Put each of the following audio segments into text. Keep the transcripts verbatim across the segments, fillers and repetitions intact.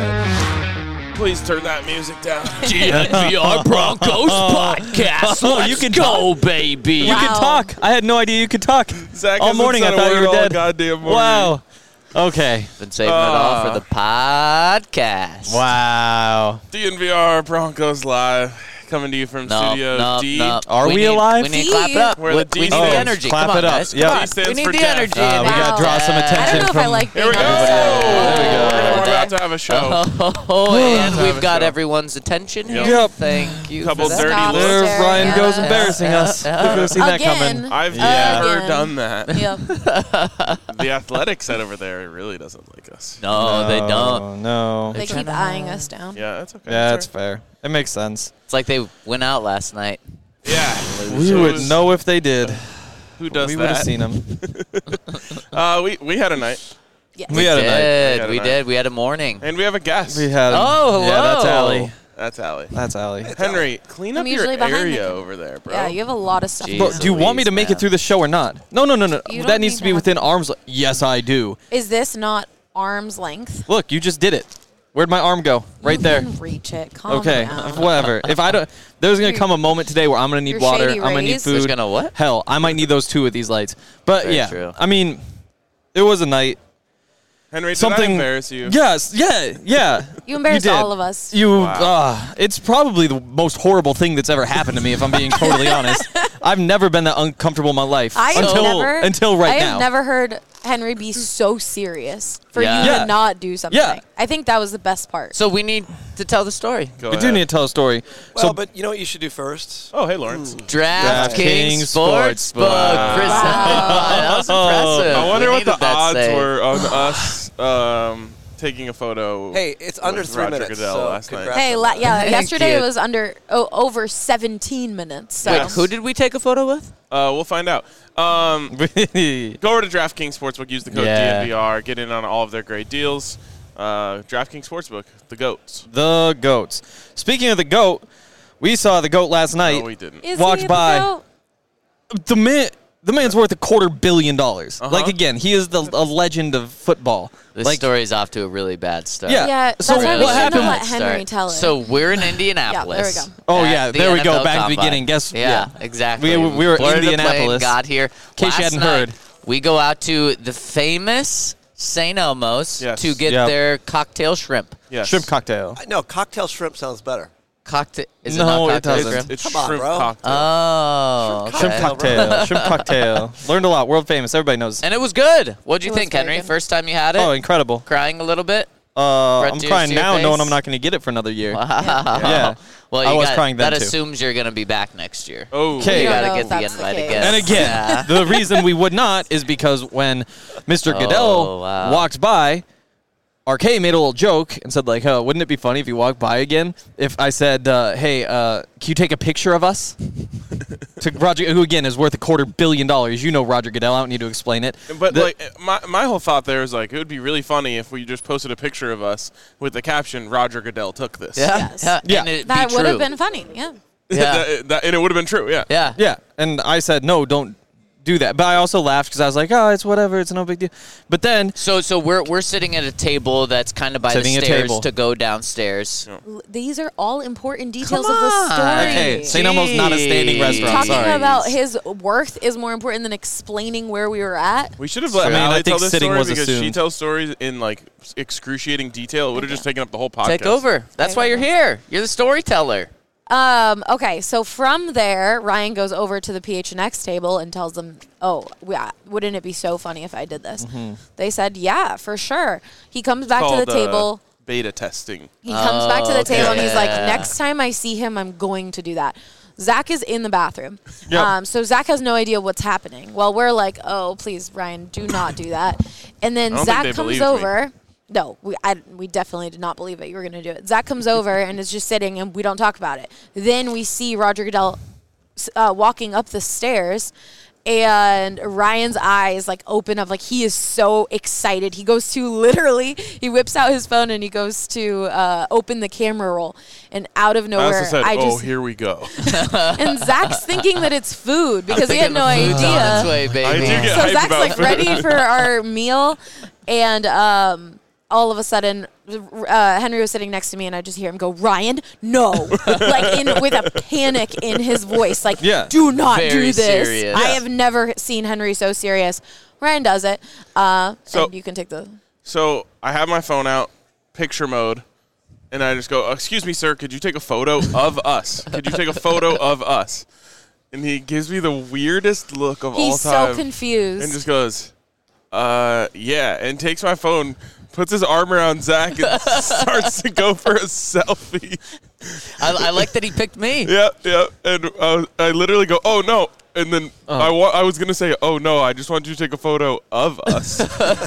good. Please turn that music down. G N V R Broncos podcast. Oh, Let's you can go, talk. baby. You Wow. can talk. I had no idea you could talk. Zach all hasn't morning said I a thought you word were all dead. goddamn morning. Wow. Okay. Been saving it all Uh, for the podcast. Wow. D N V R Broncos Live, coming to you from No, Studio no, D. no. Are we need, alive? We need to clap it up. Where we, the D we need stands. the energy. Clap Come it on, up. guys. Yeah. Come D on. stands We need for the death. energy. Uh, we Wow. got to draw some I attention I don't know if from... I like Here being we go. on the There side. we go. Oh, We're about to have a show. Oh, and Have we've a got show. everyone's attention here. Yep. Thank you. Couple for that. dirty Stop looks. There staring Ryan at goes us. embarrassing us. Yeah. Who could have seen that Again. coming? I've Yeah. never Again. done that. Yep. The athletic side over there really doesn't like us. No, they don't. No. They keep eyeing us down. Yeah, that's okay. Yeah, That's it's fair. It makes sense. It's like they went out last night. all right. Yeah. We So would who's- know if they did. Who does we that? would have seen them. Uh, we, we had a night. Yes. We had a night. did. night. We did. We had a morning. And we have a guest. We had. Oh, Yeah, that's hello. Allie. That's Allie. That's Allie. Henry, clean I'm up your usually behind the area camera. over there, bro. Yeah, you have a lot of stuff. Jeez. Bro, do you want me to Louise, make man. it through the show or not? No, no, no, no. You That don't needs need to be to have- within arm's. Yes, I do. Is this not arm's length? Look, you just did it. Where'd my arm go? Right You there. can reach it. Calm Okay, down. whatever. If I don't, there's gonna come a moment today where I'm gonna need Your water. shady I'm gonna need rays? food. There's gonna what? Hell, I might need those too with these lights. But Very yeah, true. I mean, it was a night. Henry, did Something I embarrass you? Yes, yeah, yeah. You embarrassed did. all of us. You, Wow. uh, it's probably the most horrible thing that's ever happened to me. If I'm being totally honest, I've never been that uncomfortable in my life I have until never, until right I now. have never heard Henry be so serious for Yeah. you Yeah. to not do something. Yeah. I think that was the best part. So we need to tell the story. Go we ahead. do need to tell a story. Well, so but you know what you should do first? Oh, hey, Lawrence. DraftKings DraftKings Sportsbook. Sportsbook. Chris, that was impressive. I wonder We what the needed that odds save. were on us um, taking a photo. Hey, it's under with three Roger minutes. Goodell so last night. congrats Hey, on la- that. yeah, Thank yesterday you. it was under oh, over seventeen minutes. So. Yeah. Wait, who did we take a photo with? Uh, we'll find out. Um, go over to DraftKings Sportsbook. Use the code Yeah. D N V R. Get in on all of their great deals. Uh, DraftKings Sportsbook, the goats. the goats. Speaking of the goat, we saw the goat last night. No, we didn't. Is walked he by. the goat? The man, the man's worth a quarter billion dollars. Uh-huh. Like again, he is the a legend of football. This like, story's off to a really bad start. Yeah. Yeah, So that's why we what shouldn't happened- have let Henry Start. tell it. So we're in Indianapolis. Yeah, there we go. Oh, at yeah, the there we N F go, L back to the Combine. beginning. Guess- Yeah, yeah. exactly. We- we were in Boarded the Indianapolis. plane, got here. In case you Last hadn't night, heard. we go out to the famous Saint Elmo's Yes. to get Yep. their cocktail shrimp. Yes. shrimp cocktail. I- No, cocktail shrimp sounds better. Cocktail? Is No, it not it cocktail doesn't. shrimp? It's Come on, shrimp bro. cocktail. Oh, okay. Shrimp Cocktail, cocktail. shrimp cocktail. Learned a lot. World famous. Everybody knows. And it was good. What'd you It was think, very Henry? good. First time you had it? Oh, incredible. Crying a little bit? Uh, Red I'm juice crying to your now, knowing face? I'm not going to get it for another year. Wow. Yeah. Well, I you was got, crying then, that too. assumes you're going to be back next year. Oh, Okay. You We got don't to know get if the that's the invite case. again. And again, Yeah. the reason we would not is because when Mister Oh, Goodell wow. walked by, R K made a little joke and said, like, oh, wouldn't it be funny if you walked by again? If I said, uh, hey, uh, can you take a picture of us? To Roger, who, again, is worth a quarter billion dollars. You know Roger Goodell. I don't need to explain it. But The- like my my whole thought there is like it would be really funny if we just posted a picture of us with the caption "Roger Goodell took this." Yeah. Yes. Yeah. Yeah. And it'd that be would have true. been funny. Yeah. Yeah. that, that- and it would have been true. Yeah. Yeah. Yeah, and I said, no, don't do that. But I also laughed because I was like, oh, it's whatever. It's no big deal. But then, So so we're we're sitting at a table that's kind of by Sitting the at stairs table. to go downstairs. L- These are all important details Come of the on. story. okay, Saint Elmo's not a standing Jeez. restaurant. Talking Sorry. about his worth is more important than explaining where we were at. We should have let I mean, Allie I think tell this sitting story was because she assumed. tells stories in like excruciating detail. It would have just taken up the whole podcast. Take over. That's why you're here. You're the storyteller. Um, okay, so from there, Ryan goes over to the P H N X table and tells them, oh, yeah, wouldn't it be so funny if I did this? Mm-hmm. They said, yeah, for sure. He comes back Called, to the uh, table. beta testing. He comes back to the Oh, table and he's like, okay. next time I see him, I'm going to do that. Zach is in the bathroom. Yep. Um, so Zach has no idea what's happening. Well, we're like, oh, please, Ryan, do not do that. And then I don't think Zach they comes believed me. over. No, we I, we definitely did not believe that you were going to do it. Zach comes over and is just sitting, and we don't talk about it. Then we see Roger Goodell uh, walking up the stairs, and Ryan's eyes like open up, like he is so excited. He goes to literally, he whips out his phone and he goes to uh, open the camera roll, and out of I nowhere, also said, I "Oh, just here we go." and Zach's thinking that it's food because he had no Food's on its idea. way, baby. I do get So hyped Zach's about like food. ready for our meal, and um, all of a sudden, uh, Henry was sitting next to me, and I just hear him go, "Ryan, no!" like in with a panic in his voice, like, Yeah. "Do not Very do this." serious. I Yeah. have never seen Henry so serious. Ryan does it. Uh, So- and you can take the. So I have my phone out, picture mode, and I just go, "Excuse me, sir, could you take a photo of us? Could you take a photo of us?" And he gives me the weirdest look of all He's time. so confused. And just goes, uh, yeah, and takes my phone, puts his arm around Zach, and starts to go for a selfie. I, I like that he picked me. Yeah, yeah. And uh, I literally go, "Oh, no." And then I, wa- I was going to say, "Oh, no, I just want you to take a photo of us."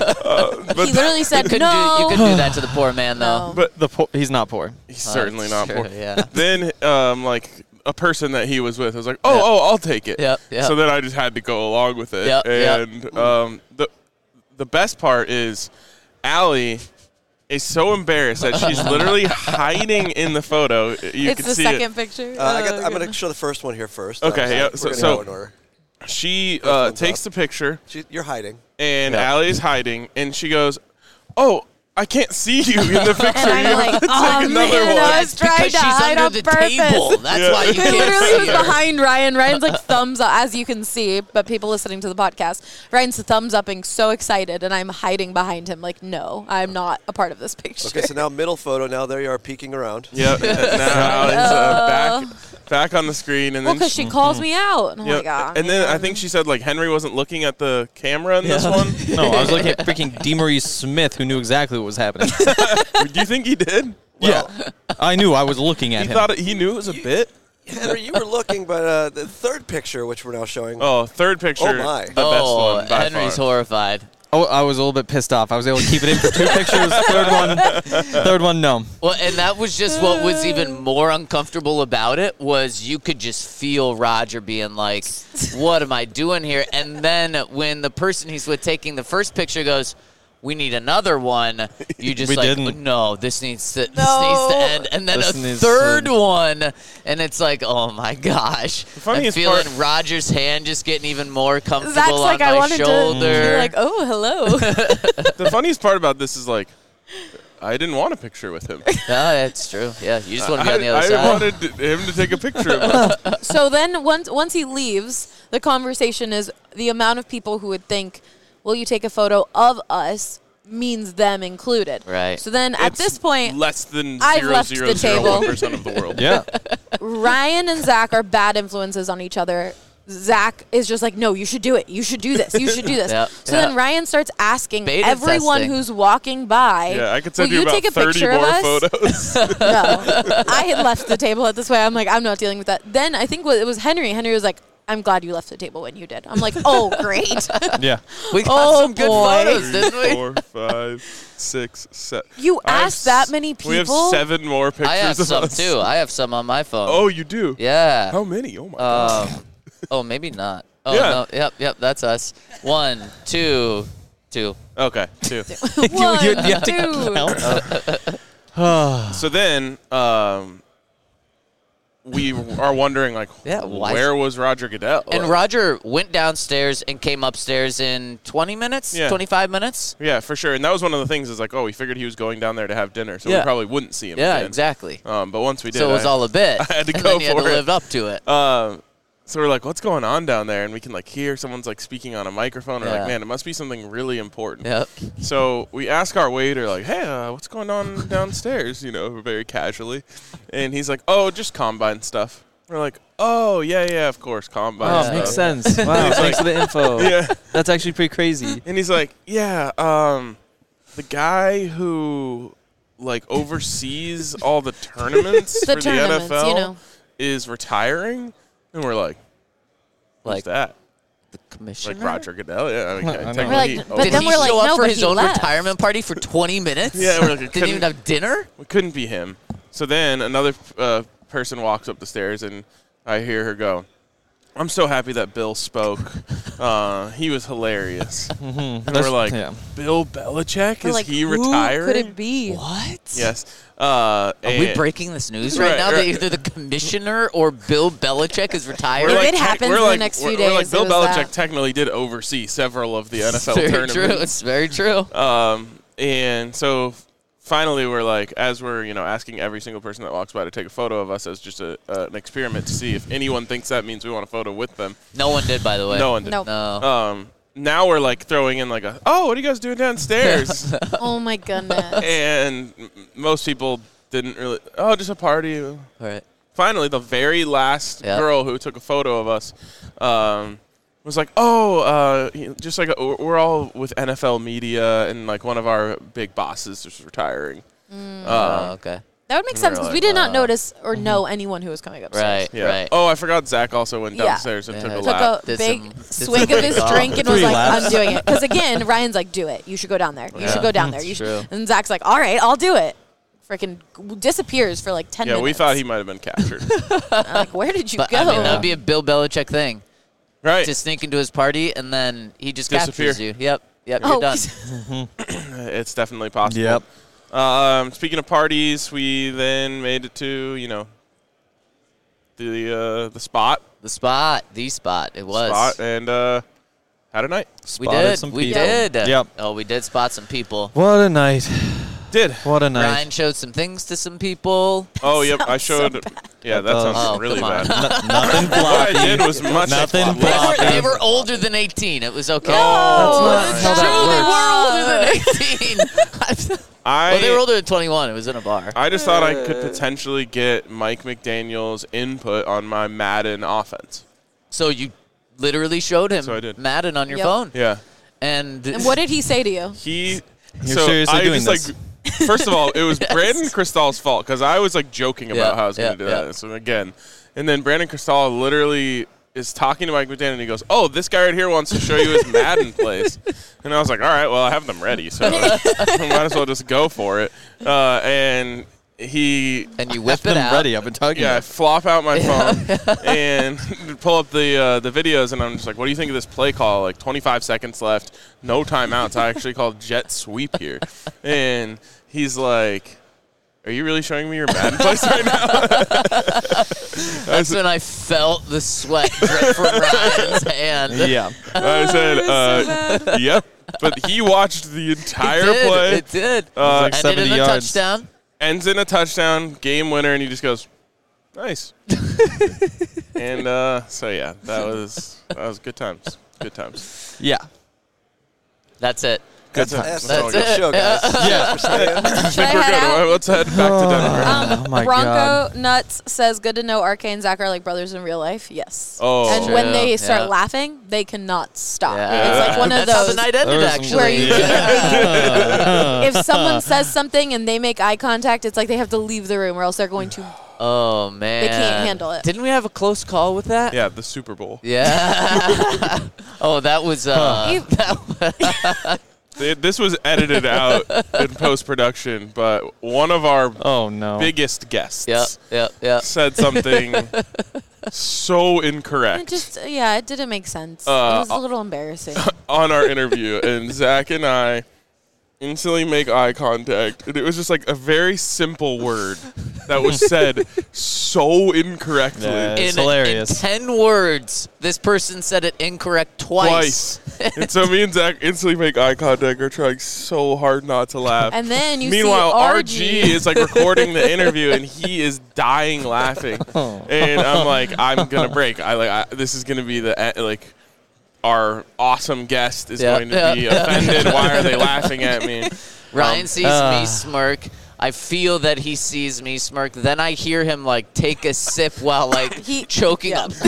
uh, but he literally said, You couldn't, "No." do, you couldn't do that to the poor man, though. No. but The po- he's not poor. he's certainly That's not true, poor. yeah. Then, um, like, a person that he was with was like, "Oh, Yep. oh, I'll take it." Yep, yep. So then I just had to go along with it. Yep, yep. and um, the the best part is Allie is so embarrassed that she's literally hiding in the photo. You it's can the see second it. picture. Uh, I Oh, got, I'm going to goodness. show the first one here first. Okay, Uh, yeah, we're so- gonna so- go in order. She First uh, one's takes up. the picture, She, you're hiding. and Yeah. Allie's hiding, and she goes, "Oh, I can't see you in the picture." And I'm You like, have to "Oh, take another man, one." I was It's trying because to she's hide under on the purpose. table. That's Yeah. why you He can't literally see was her. behind Ryan. Ryan's like thumbs up, as you can see, but people listening to the podcast, Ryan's thumbs upping, so excited, and I'm hiding behind him. Like, no, I'm not a part of this picture. Okay, so now middle photo. Now there you are peeking around. Yep. Now Allie's uh, back back on the screen, and well, then because she calls me out. And I'm Yep. like, ah, and then I man. think she said like Henry wasn't looking at the camera in this Yeah. one. No, I was looking at freaking DeMaurice Smith, who knew exactly what was happening. Do you think he did? yeah, I knew I was looking at He him. thought it, he knew it was a bit. Henry, you were looking, but uh, the third picture, which we're now showing. Oh, third picture. Oh, my. The best Oh, one by Henry's far. horrified. Oh, I was a little bit pissed off. I was able to keep it in for two pictures. Third one, third one, no. Well, and that was just what was even more uncomfortable about it was you could just feel Roger being like, "What am I doing here?" And then when the person he's with taking the first picture goes, "We need another one," you just We like, didn't. "No, this needs to this No. needs to end." And then This a needs third to- one, and it's like, "Oh my gosh!" I'm funniest feeling part- Roger's hand just getting even more comfortable Zach's on like, my I wanted shoulder. to be like, oh, hello. The funniest part about this is like, I didn't want a picture with him. Yeah, that's true. Yeah, you just want to be on the I, other I side. wanted him to take a picture of us. So then once once he leaves, the conversation is the amount of people who would think, "Will you take a photo of us?" means them included. Right. So then at It's this point, less than I've zero left zero the zero table. one percent of the world. Yeah. Ryan and Zach are bad influences on each other. Zach is just like, no, you should do it. You should do this. You should do this. Yep. So Yep. then Ryan starts asking Beta everyone testing. who's walking by, Yeah, I could send will you, you about take a thirty picture more of us? photos. No. I had left the table at this way. I'm like, I'm not dealing with that. Then I think it was Henry. Henry was like, I'm glad you left the table when you did. I'm like, oh, great. Yeah. We got Oh, some good boy. photos, didn't we? Four, five, six, seven. You I have asked that s- many people? We have seven more pictures I have of some us. too. I have some on my phone. Oh, you do? yeah. How many? Oh my god. Um, oh, maybe not. Oh, Yeah. no. Yep, yep, that's us. One, two, two. Okay, two. One, you- you have to two. count. So then, um, we are wondering like, Yeah, why- where was Roger Goodell? And Roger went downstairs and came upstairs in twenty minutes, Yeah. twenty-five minutes. Yeah, for sure. And that was one of the things is like, oh, we figured he was going down there to have dinner, so Yeah. we probably wouldn't see him. Yeah, again. exactly. Um, but once we did, So it was I- all a bit. I had to and go then you had for to it. live up to it. Um, so we're like, what's going on down there? And we can like hear someone's like speaking on a microphone. We're Yeah. like, man, it must be something really important. Yep. So we ask our waiter, like, hey, uh, what's going on downstairs? You know, very casually. And he's like, oh, just combine stuff. We're like, oh, yeah, yeah, of course, combine Oh, stuff. makes sense. Wow, thanks for the info. Yeah. That's actually pretty crazy. And he's like, yeah, um, the guy who like oversees all the tournaments The for tournaments, the N F L you know. is retiring. And we're like, who's Like that? the commissioner. Like Roger Goodell? Yeah, I mean, I know. technically We're like, he but owns- Did then he we're like, show up no, for but his he own left. retirement party for twenty minutes? Yeah, we're like, it Didn't even couldn't- have dinner? It couldn't be him. So then another uh, person walks up the stairs, and I hear her go, I'm so happy that Bill spoke. Uh, he was hilarious. And we're like, yeah. Bill Belichick? We're Is like, he who retiring? could it be? What? Yes. Uh, Are we and- breaking this news right, Right, now that right. either the commissioner or Bill Belichick is retired? We're If like, it tech- happens we're in the like, next we're, few we're like days, Bill it was Belichick that. technically did oversee several of the N F L very tournaments. true. It's very true. Um, and so finally we're like, as we're, you know, asking every single person that walks by to take a photo of us as just a, uh, an experiment to see if anyone thinks that means we want a photo with them. No one did, by the way. No one did. Nope. No. Um, now we're like throwing in like a, oh, what are you guys doing downstairs? Oh my goodness. And m- most people didn't really, oh, just a party. All right. Finally, the very last Yep. girl who took a photo of us um, was like, oh, uh, you know, just like a, we're all with N F L media, and like one of our big bosses is retiring. Mm. Oh, Um, okay. That would make sense because Really? we did not Uh, notice or know anyone who was coming upstairs. Right, yeah. right. Oh, I forgot Zach also went Yeah. downstairs and Yeah. took a Took Took lap. a Did big some- did swig some of his big drink and was Three like, laps. I'm doing it. Because again, Ryan's like, do it. You should go down there. You Yeah. should go down there. You It's should. true. And Zach's like, all right, I'll do it. Freaking disappears for like ten Yeah, minutes. we thought he might have been captured. I'm like, where did you But go? I mean, that would be a Bill Belichick thing Right. to sneak into his party and then he just Disappear. captures you. Yep, yep, oh, you're done. It's definitely possible. Yep. Um, speaking of parties, we then made it to, you know, the uh, the spot. The spot, the spot, it was. Spot, and uh, had a night. We Spotted did, some we people. did. Yep. Oh, we did spot some people. What a night. Did. What a night. Ryan showed some things to some people. Oh, yep. I sounds so showed. yeah, that sounds Oh, really come on. bad. N- nothing What floppy. I did was much Nothing floppy. They were, floppy. they were older than eighteen. It was okay. Oh, That's not how that Truly, we're older than eighteen. I, well, they were older than twenty-one. It was in a bar. I just thought I could potentially get Mike McDaniel's input on my Madden offense. So you literally showed him So I did. Madden on your Yep. phone. Yeah. And, And what did he say to you? He. You're so seriously I doing just this? like. First of all, it was Brandon Cristal's fault because I was like joking about Yeah, how I was going yeah, to do yeah. that. So again, and then Brandon Cristal literally is talking to Mike McDaniel and he goes, "Oh, this guy right here wants to show you his Madden plays," and I was like, "All right, well, I have them ready, so I might as well just go for it." Uh, and he and you whip Them it out. ready. I've been talking Yeah, I about flop out my phone and pull up the uh, the videos, and I'm just like, "What do you think of this play call? Like twenty-five seconds left, no timeouts. I actually called jet sweep here." And he's like, "Are you really showing me your Madden plays right now?" I That's said, when I felt the sweat drip from Ryan's hand. Yeah. I said uh, "Yep," but he watched the entire it did. play. It did. Uh, like Ended seventy in a yards. touchdown. ends in a touchdown, game winner, and he just goes, "Nice." And uh, so yeah, that was that was good times. Good times. Yeah. That's it. Good That's, times. that's, all that's good. a show, guys. Yeah. For saying. I Should I think we're head out? good. Let's head back to Denver. Um, Oh my Bronco God. Nuts says, good to know R K and Zach are like brothers in real life. Yes. Oh. And True, when they start yeah. laughing, they cannot stop. Yeah. It's like one of That's how those the night ended, There was some- actually. where you Yeah. if someone says something and they make eye contact, it's like they have to leave the room or else they're going to. Oh, man. They can't handle it. Didn't we have a close call with that? Yeah, the Super Bowl. Yeah. Oh, that was. Uh, You- that Th- This was edited out in post production, but one of our Oh no. biggest guests Yep, yep, yep. said something so It incorrect just yeah, it didn't make sense. Uh, it was a little embarrassing. on our interview, and Zach and I instantly make eye contact, and it was just like a very simple word that was said so incorrectly. Yeah. It's in, hilarious. In ten words, this person said it incorrect twice. Twice. And so me and Zach instantly make eye contact. We're trying so hard not to laugh. And then you Meanwhile, see R R G G is like recording the interview, and he is dying laughing. And I'm like, I'm gonna break. I like I, this is gonna be the e- like our awesome guest is Yeah, going to yeah. be offended. Why are they laughing at me? Ryan Um, sees uh. me smirk. I feel that he sees me smirk. Then I hear him like take a sip while like He- choking yeah. up.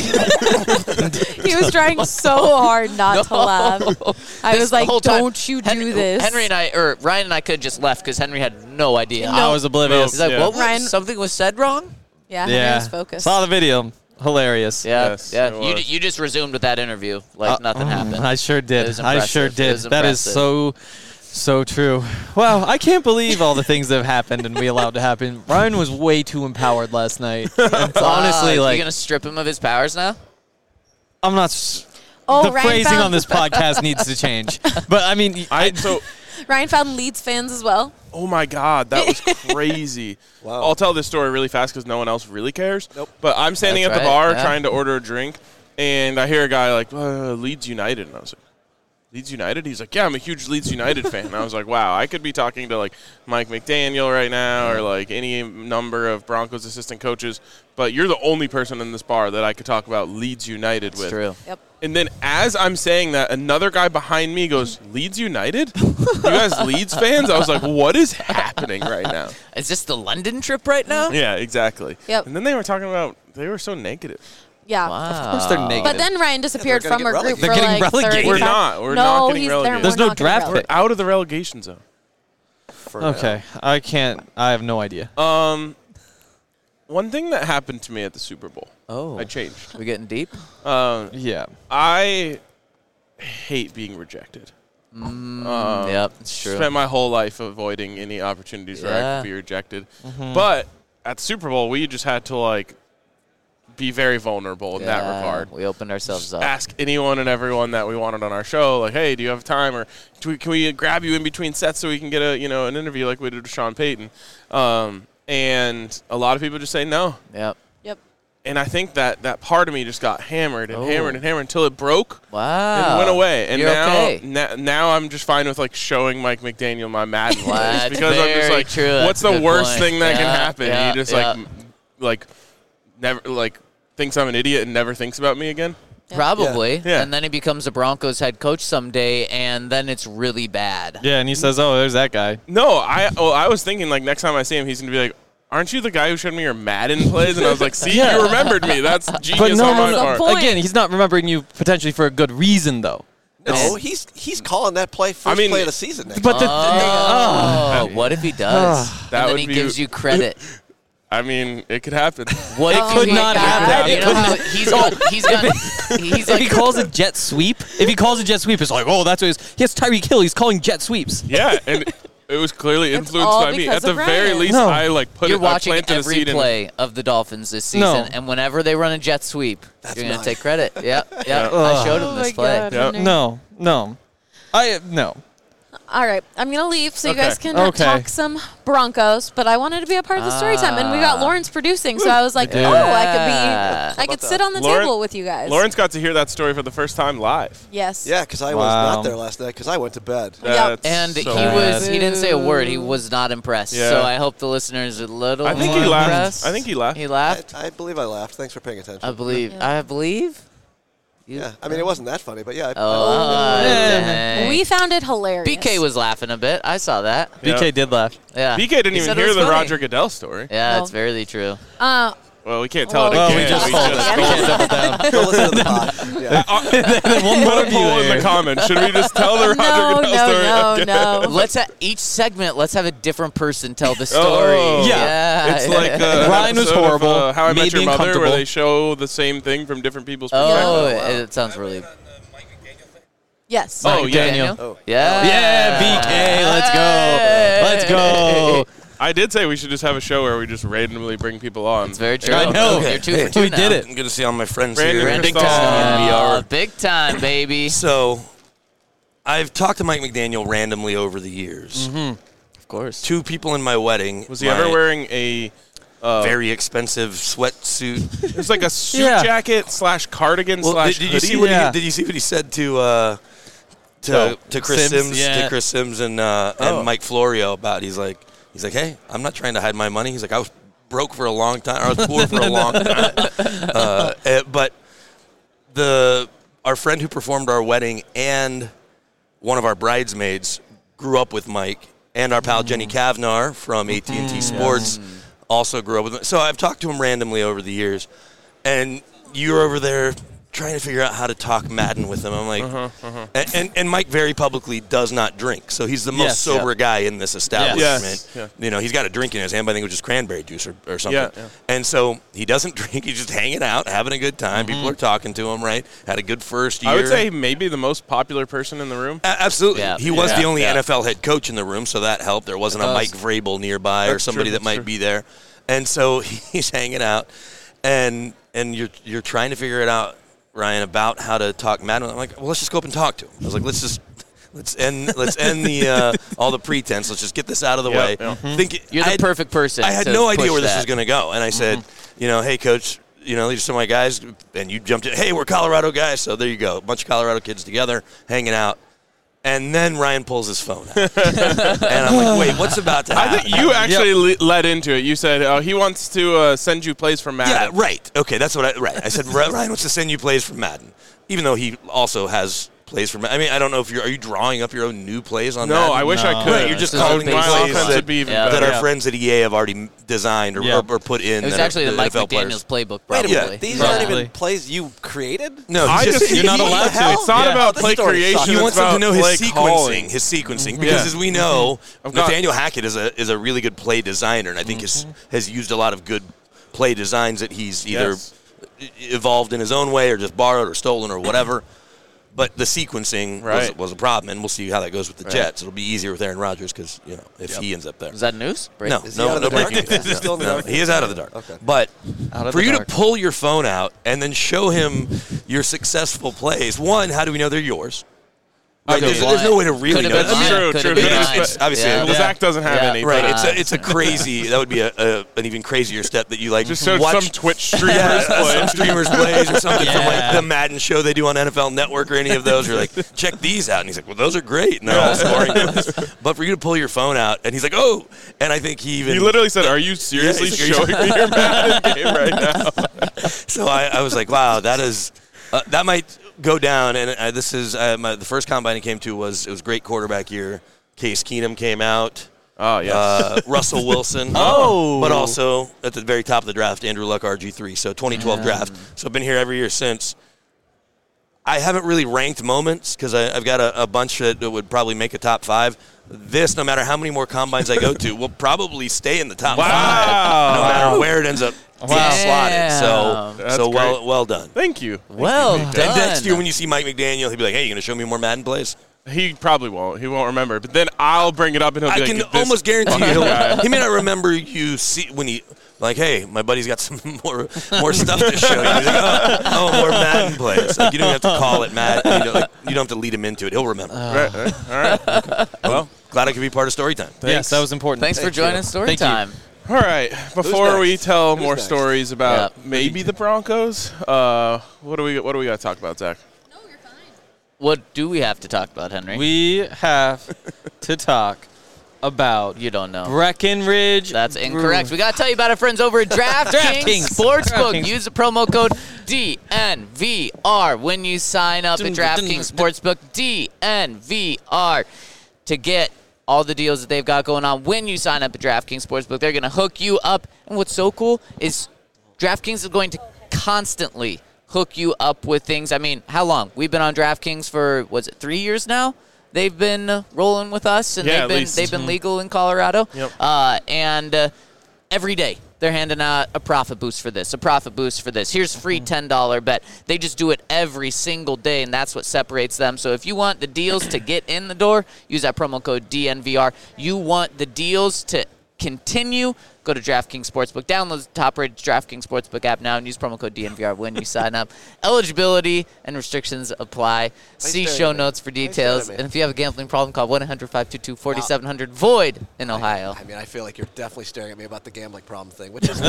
he was trying so hard not to laugh. I This was like, whole time, don't you do Henry, this. Henry and I, or Ryan and I, could have just left because Henry had no idea. I was oblivious. He's like, Yeah. what? was- Ryan- Something was said wrong. yeah, Henry yeah. was focused. Saw the video. Hilarious. Yeah, Yes, yeah. it You, was. you just resumed with that interview like Uh, nothing mm, happened. I sure It did. was I sure impressive. It did. was That is impressive. so, so true. Wow, I can't believe all the things that have happened and we allowed to happen. Ryan was way too empowered last night. It's honestly, Uh, like, you gonna strip him of his powers now? I'm not. S- Oh, the Ryan phrasing found- on this podcast needs to change. But I mean, I so. Ryan found Leeds fans as well. Oh my God, that was crazy. Wow. I'll tell this story really fast because no one else really cares. Nope. But I'm standing That's at the right, bar yeah. trying to order a drink, and I hear a guy like, uh, Leeds United, and I was like, Leeds United? He's like, yeah, I'm a huge Leeds United fan. And I was like, wow, I could be talking to, like, Mike McDaniel right now or, like, any number of Broncos assistant coaches, but you're the only person in this bar that I could talk about Leeds United with. It's true. Yep. And then as I'm saying that, another guy behind me goes, Leeds United? You guys Leeds fans? I was like, what is happening right now? Is this the London trip right now? Yeah, exactly. Yep. And then they were talking about, they were so negative. Yeah. Wow. Of course they're negative. But then Ryan disappeared they're gonna from our get group They're for getting like relegated. thirty We're not. We're no, not getting he's, relegated. There's we're no not getting draft relegated. pick. Out of the relegation zone. For now. Okay, I can't. I have no idea. Um, one thing that happened to me at the Super Bowl, Oh. I changed. We getting deep? Um, Yeah. I hate being rejected. Mm, Um, yep, it's true. Spent my whole life avoiding any opportunities where I Yeah. could be rejected. But at the Super Bowl, we just had to, like, be very vulnerable in that Yeah, regard. We opened ourselves up. Ask anyone and everyone that we wanted on our show, like, hey, do you have time, or do we, can we grab you in between sets so we can get a you know an interview like we did with Sean Payton? Um, and a lot of people just say no. Yep. Yep. And I think that that part of me just got hammered and Oh. hammered and hammered until it broke Wow. and went away. And You're now, okay. na- now I'm just fine with, like, showing Mike McDaniel my Madden plays That's because I'm just very like, true. That's what's a the good worst point. thing that can Yeah, happen? yeah, he just yeah. like m- like never like thinks I'm an idiot and never thinks about me again. Probably. Yeah. And then he becomes a Broncos head coach someday, and then it's really bad. Yeah, and he says, "Oh, there's that guy." No, I well, I was thinking, like, next time I see him, he's gonna be like, aren't you the guy who showed me your Madden plays? And I was like, see, Yeah. you remembered me. That's genius But no, on no, my no. part. point. Again, he's not remembering you potentially for a good reason, though. No, he's he's calling that play first I mean- play of the season next But the, Oh, what if he does? That and then would he be- gives you credit. I mean, it could happen. What It if could he- not you happen. know It could how not- he's got he's got he's if he like calls it jet sweep, if he calls it jet sweep, it's like, oh, that's what it is. He has Tyreek Hill. He's calling jet sweeps. Yeah, and it was clearly influenced all by me. because At the of very Ryan. least, No. I like put you're it, I watching planted a every seed in. play of the Dolphins this season, No. and whenever they run a jet sweep, you're gonna mine. take credit. Yeah, yeah. Yeah. I showed him Oh this my play. God. Yep. Henry. No, no, I no. All right, I'm gonna leave so you Okay. guys can Okay. talk some Broncos. But I wanted to be a part of the story time, and we got Ah. Lawrence producing, so I was like, Yeah. oh, I could Yeah. be, I could about sit that? on the Lauren- table with you guys. Lawrence got to hear that story for the first time live. Yes. Yeah, because I was Wow. not there last night because I went to bed. Yep. That's And so he bad. was he didn't say a word. He was not impressed. Yeah. So I hope the listeners are a little I think more he laughed. impressed. I think he laughed. He I, laughed. I believe I laughed. Thanks for paying attention. I believe. Yeah. I believe. You- yeah, I mean it wasn't that funny, but yeah. I, Oh, Yeah. dang. We found it hilarious. B K was laughing a bit. I saw that. Yeah. B K did laugh. Yeah. B K didn't He even said it hear was the funny. Roger Goodell story. Yeah, No. it's very true. Uh, Well, we can't tell Well, it Well, again. we just We told just it. We can't double down. Go listen to the pod. Yeah. One Put more a poll in the comments. Should we just tell the Roger no, Goodell no, story? no, Okay. no. Let's ha- each segment. Let's have a different person tell the story. Oh. Yeah. It's like uh, Ryan was episode of, horrible, uh, How I Met made Your me Mother, where uncomfortable. they show the same thing from different people's Oh, perspectives. it sounds really. Yes. Oh, Mike yeah. Daniel? Oh. Yeah. Yeah, B K, let's go. Let's go. I did say we should just have a show where we just randomly bring people on. It's very true. I know. You're two Hey, for two we now. did it. I'm good to see all my friends Brandon here. Brandon Big Cristall. time in V R. Oh, big time, baby. So, I've talked to Mike McDaniel randomly over the years. Of course. Two people in my wedding. Was he my ever wearing a uh, very expensive sweatsuit? It was like a suit Yeah. jacket slash cardigan Well, slash did, did you hoodie. see what Yeah. he did? You see what he said to uh, to No. to Chris Sims, Sims, yeah. to Chris Sims and uh, Oh. and Mike Florio about? He's like he's like, hey, I'm not trying to hide my money. He's like, I was broke for a long time. Or I was poor for a long time. Uh, eh, but the our friend who performed our wedding and one of our bridesmaids grew up with Mike, and our pal Jenny Kavnar from A T and T Sports also grew up with him. So I've talked to him randomly over the years, and you're over there trying to figure out how to talk Madden with him. I'm like, And, and and Mike very publicly does not drink, so he's the most Yes, sober yeah. guy in this establishment. Yes, yeah. You know, he's got a drink in his hand, but I think it was just cranberry juice or, or something. Yeah, yeah. And so he doesn't drink; he's just hanging out, having a good time. People are talking to him, right? Had a good first year. I would say maybe the most popular person in the room. A- absolutely. Yeah. He was Yeah. the only Yeah. N F L head coach in the room, so that helped. There wasn't It a does. Mike Vrabel nearby or That's somebody true, that that's might true. be there. And so he's hanging out, and and you're you're trying to figure it out, Ryan, about how to talk Madden. I'm like, well, let's just go up and talk to him. I was like, let's just let's end let's end the uh, all the pretense. Let's just get this out of the Yeah, way. yeah. Think You're the I had- perfect person. I had to no idea push where this that. was going to go, and I said, you know, hey, coach, you know, these are some of my guys, and you jumped in. Hey, we're Colorado guys, so there you go, a bunch of Colorado kids together, hanging out. And then Ryan pulls his phone out. And I'm like, wait, what's about to happen? I think you actually yep. le- led into it. You said, oh, he wants to uh, send you plays from Madden. Yeah, right. Okay, that's what I, right. I said, Ryan wants to send you plays from Madden, even though he also has plays from, I mean, I don't know if you're, are you drawing up your own new plays on no, Madden? I wish no. I could. Right, you're just This calling is the basic. plays offense that, would be even yeah. that better. our Yeah. friends at E A have already designed or, Yeah. or, or put in. It was that actually are the Mike N F L McDaniel's players. playbook, Wait a probably. minute. These Yeah. aren't even Probably. plays you created? No, I he just, just, You're not he- allowed to. It's not Yeah. about Oh, this play story creation. sucks. He it's wants them to about know his play sequencing, calling. his sequencing, because Yeah. as we know, I've got- Nathaniel Hackett is a is a really good play designer, and I think has has used a lot of good play designs that he's either Yes. evolved in his own way or just borrowed or stolen or whatever. But the sequencing was, Right. was a problem, and we'll see how that goes with the Right. Jets. It'll be easier with Aaron Rodgers because you know if Yep. he ends up there. Is that news? Break- No, Is he no, out of no the dark? breaking Is he news. still in the No, dark? he is out of the dark. Okay. But Out of for the you dark. to pull your phone out and then show him your successful plays, one, how do we know they're yours? Right, Could've there's, been there's no way to mine. really Could've know. been that. mine. True, Could've true. been It's- mine. it's obviously Yeah. a- Well, Zach doesn't have Yeah. any. Right, but, it's uh, a, it's a crazy. That would be a, a an even crazier step that you like. just showed watch some Twitch streamers yeah, play. some streamers plays or something from like Yeah. the Madden show they do on N F L Network or any of those. You're like, check these out, and he's like, well, those are great, and they're all scoring plays. But for you to pull your phone out, and he's like, oh, and I think he even He literally said, "Are you seriously he's like, "Are showing me your Madden game right now?" So I, I was like, wow, that is uh, that might go down. And uh, this is uh, my, the first combine I came to was it was great quarterback year. Case Keenum came out. Oh yes. Uh, Russell Wilson. Oh. But also at the very top of the draft, Andrew Luck, R G three. So twenty twelve draft. So I've been here every year since. I haven't really ranked moments because I've got a, a bunch that would probably make a top five. This, no matter how many more combines I go to, will probably stay in the top Wow. five, no matter where it ends up being Wow. slotted. So, That's so well, great. well done. Thank you. Well And done. next year, when you see Mike McDaniel, he'll be like, "Hey, you going to show me more Madden plays?" He probably won't. He won't remember. But then I'll bring it up, and he'll I be can like, this- almost guarantee you, guy. he'll, he may not remember you see when he like, "Hey, my buddy's got some more more stuff to show you." He's like, oh, oh, more Madden plays. Like, you don't have to call it Madden. You, know, like, you don't have to lead him into it. He'll remember. Right, right. All right. Well, glad I could be part of story time. Yes, that was important. Thanks for Thank joining you. Story Thank you. Time. All right. Before next? we tell Who's more next? stories about Yeah. maybe the Broncos, uh, what do we what do we got to talk about, Zach? What do we have to talk about, Henry? We have to talk about you don't know. Breckenridge. That's incorrect. We got to tell you about our friends over at DraftKings DraftKings. Sportsbook. DraftKings. Use the promo code D N V R when you sign up at DraftKings Sportsbook. D N V R to get all the deals that they've got going on when you sign up at DraftKings Sportsbook. They're going to hook you up. And what's so cool is DraftKings is going to constantly hook you up with things. I mean, how long? We've been on DraftKings for, was it three years now? They've been uh, rolling with us, and Yeah, they've at been least. they've been legal in Colorado. Yep. Uh, and uh, every day they're handing out a profit boost for this, a profit boost for this. Here's a free ten dollar bet. They just do it every single day, and that's what separates them. So if you want the deals to get in the door, use that promo code D N V R. You want the deals to continue, go to DraftKings Sportsbook. Download the top-rated DraftKings Sportsbook app now and use promo code D N V R when you sign up. Eligibility and restrictions apply. See staring show at me? notes for Why are you details. staring at me? And if you have a gambling problem, call one eight hundred five two two four seven zero zero. Void in Ohio. I mean, I feel like you're definitely staring at me about the gambling problem thing, which is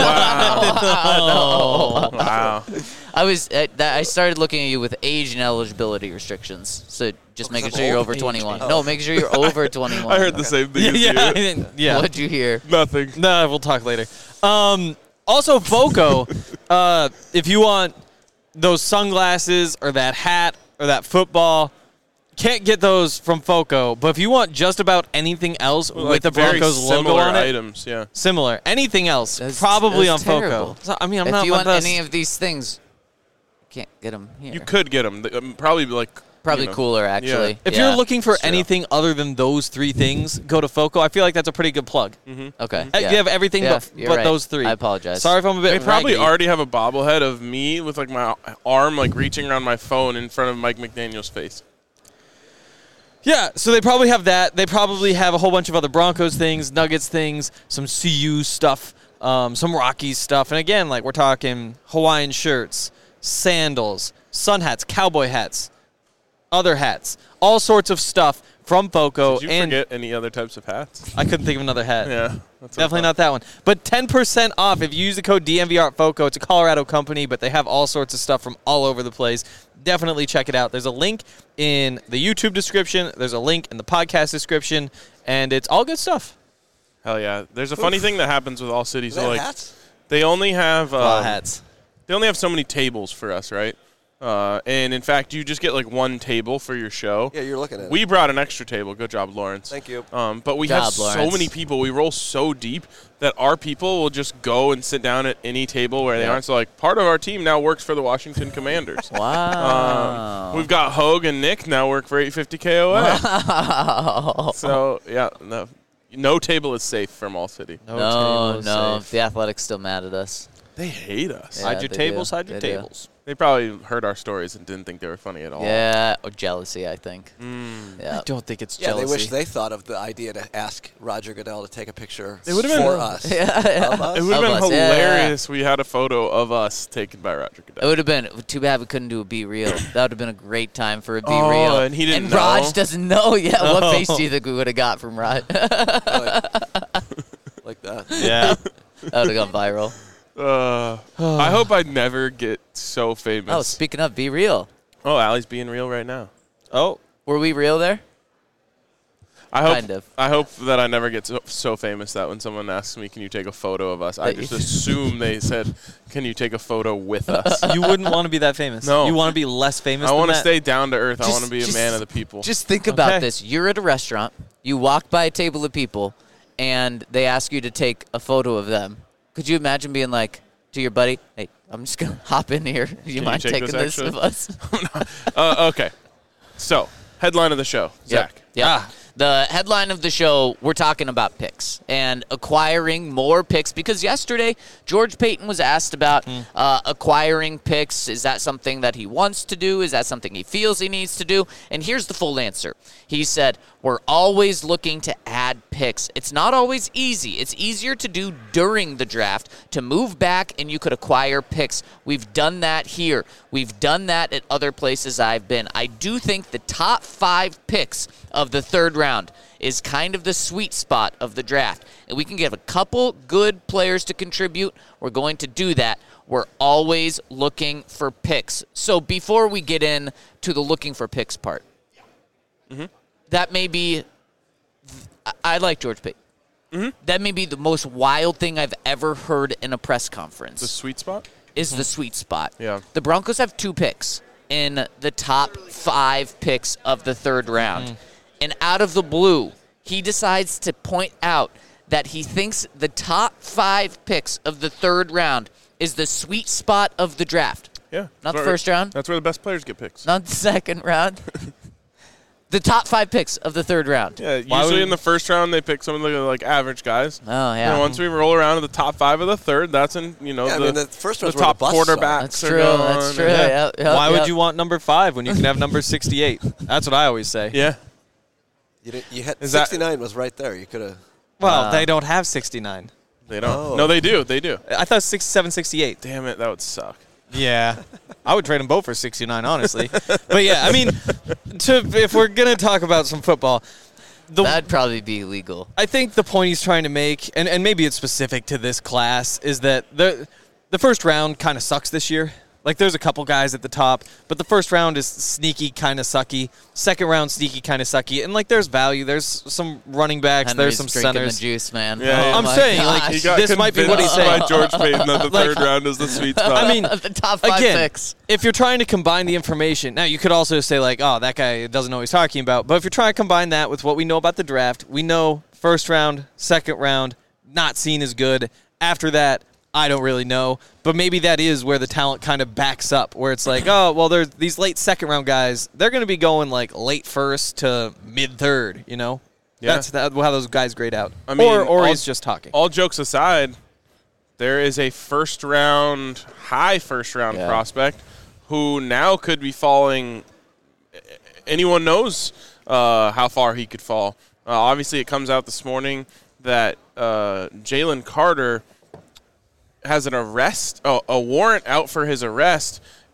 Wow. wow. I was uh, that I started looking at you with age and eligibility restrictions. So just Oh, making 'cause sure I'm you're old? over twenty-one. Oh. No, making sure you're over twenty-one. I heard the same thing yeah, as yeah, I you. didn't- yeah. What'd you hear? Nothing. No, we'll talk later. Um, also, Foco, uh, if you want those sunglasses or that hat or that football, can't get those from Foco. But if you want just about anything else Like with the very Broncos logo similar on it, items, yeah. similar, anything else, That's- probably that's on terrible. Foco. So, I mean, I'm if not you one want of any of these things, you can't get them here. You could get them. Um, probably like Probably you know. cooler, actually. If Yeah. you're looking for That's true. anything other than those three things, go to Foco. I feel like that's a pretty good plug. Okay. Uh, yeah. You have everything Yeah, but, you're but right. those three. I apologize. Sorry if I'm a bit They probably raggy. already have a bobblehead of me with like my arm like reaching around my phone in front of Mike McDaniel's face. Yeah, so they probably have that. They probably have a whole bunch of other Broncos things, Nuggets things, some C U stuff, um, some Rockies stuff. And again, like we're talking Hawaiian shirts, sandals, sun hats, cowboy hats, other hats, all sorts of stuff from FOCO. Did you and forget any other types of hats? I couldn't think of another hat. Yeah. That's Definitely not that one. But ten percent off if you use the code D M V R at FOCO. It's a Colorado company, but they have all sorts of stuff from all over the place. Definitely check it out. There's a link in the YouTube description. There's a link in the podcast description, and it's all good stuff. Hell yeah. There's a funny thing that happens with All City. Is So that like, hats? they only have A lot um, of hats. They only have so many tables for us, right? Uh, and in fact, you just get like one table for your show. Yeah, you're looking at We it. brought an extra table. Good job, Lawrence. Thank you. Um, but we Good have job, Lawrence. so many people. We roll so deep that our people will just go and sit down at any table where they Yeah. aren't. So like part of our team now works for the Washington Commanders. Wow. Um, we've got Hogue and Nick now work for eight fifty K O A. Wow. So yeah, no, no table is safe from All City. No, No, table is no. safe. The Athletics still mad at us. They hate us. Yeah, Hide your they tables, do. hide your They do. tables. They probably heard our stories and didn't think they were funny at all. Yeah, or jealousy, I think. Yeah. I don't think it's Yeah, jealousy. they wish they thought of the idea to ask Roger Goodell to take a picture It would've been- for us. Yeah, yeah. Of us? It would have Of been us, yeah, hilarious. We had a photo of us taken by Roger It Goodell. would have been too bad we couldn't do a Be Real. That would have been a great time for a Be Oh, Real. and he didn't And Raj know? doesn't know yet. Oh. What face do you think we would have got from Raj? that like, like that. Yeah. would have gone viral. Uh, I hope I never get so famous. Oh, speaking of Be Real, Oh, Allie's being real right now. Oh, were we real there? I hope. Kind of. I hope that I never get so, so famous that when someone asks me, "Can you take a photo of us?" I That just you- assume they said, "Can you take a photo with us?" you wouldn't want to be that famous. No. You want to be less famous I than want to that? stay down to earth. I Just- want to be a just- man of the people. Just think about Okay. this. You're at a restaurant. You walk by a table of people, and they ask you to take a photo of them. Could you imagine being like to your buddy, "Hey, I'm just gonna hop in here. Do you you mind take taking this this actually?" of us?" uh, okay. So, headline of the show, Zach. Yeah. Ah. The headline of the show, we're talking about picks and acquiring more picks because yesterday George Payton was asked about Hmm. uh, acquiring picks. Is that something that he wants to do? Is that something he feels he needs to do? And here's the full answer. He said, we're always looking to add picks. It's not always easy. It's easier to do during the draft, to move back and you could acquire picks. We've done that here. We've done that at other places I've been. I do think the top five picks of the third round is kind of the sweet spot of the draft. And we can get a couple good players to contribute. We're going to do that. We're always looking for picks. So before we get in to the looking for picks part, Mm-hmm. that may be, I, I like George Payton. Mm-hmm. That may be the most wild thing I've ever heard in a press conference. The sweet spot. is the sweet spot. Yeah. The Broncos have two picks in the top five picks of the third round. And out of the blue, he decides to point out that he thinks the top five picks of the third round is the sweet spot of the draft. Yeah. Not That's the where- first round? That's where the best players get picks. Not the second round. The top five picks of the third round. Yeah. Why Usually would- in the first round they pick some of the like average guys. Oh, And yeah. once we roll around to the top five of the third, that's in you know Yeah, I the, mean, the first the one's where the top busts are. quarterbacks. That's are true. going, That's and- true. Yeah. Yeah, yeah, Why yeah. would you want number five when you can have number sixty-eight? That's what I always say. Yeah. You, didn't, you had Is that- sixty-nine was right there. You could have. Well, Uh, they don't have sixty-nine. They don't. Oh. No, they do. They do. I thought sixty-seven, sixty-eight. Damn it, that would suck. Yeah. I would trade them both for sixty-nine, honestly. But yeah, I mean, to if we're going to talk about some football, the That'd probably be illegal. I think the point he's trying to make, and, and maybe it's specific to this class, is that the the first round kind of sucks this year. Like, there's a couple guys at the top, but the first round is sneaky, kind of sucky. Second round, sneaky, kind of sucky. And, like, there's value. There's some running backs. Henry's there's some drinking centers. the juice, man. Yeah, Oh yeah. I'm my saying, like, gosh. He got This might be what he's convinced saying. by George Payton that the Like- third round is the sweet spot. I mean, the top five again, picks. if you're trying to combine the information, now you could also say, like, oh, that guy doesn't know what he's talking about. But if you're trying to combine that with what we know about the draft, we know first round, second round, not seen as good. After that, I don't really know. But maybe that is where the talent kind of backs up, where it's like, oh, well, there's these late second round guys. They're going to be going like late first to mid third, you know? Yeah. That's that, how those guys grade out. I mean, or or all- he's just talking. All jokes aside, there is a first round, high first round Yeah. prospect who now could be falling. Anyone knows uh, how far he could fall. Uh, obviously, it comes out this morning that uh, Jalen Carter has an arrest, oh, a warrant out for his arrest,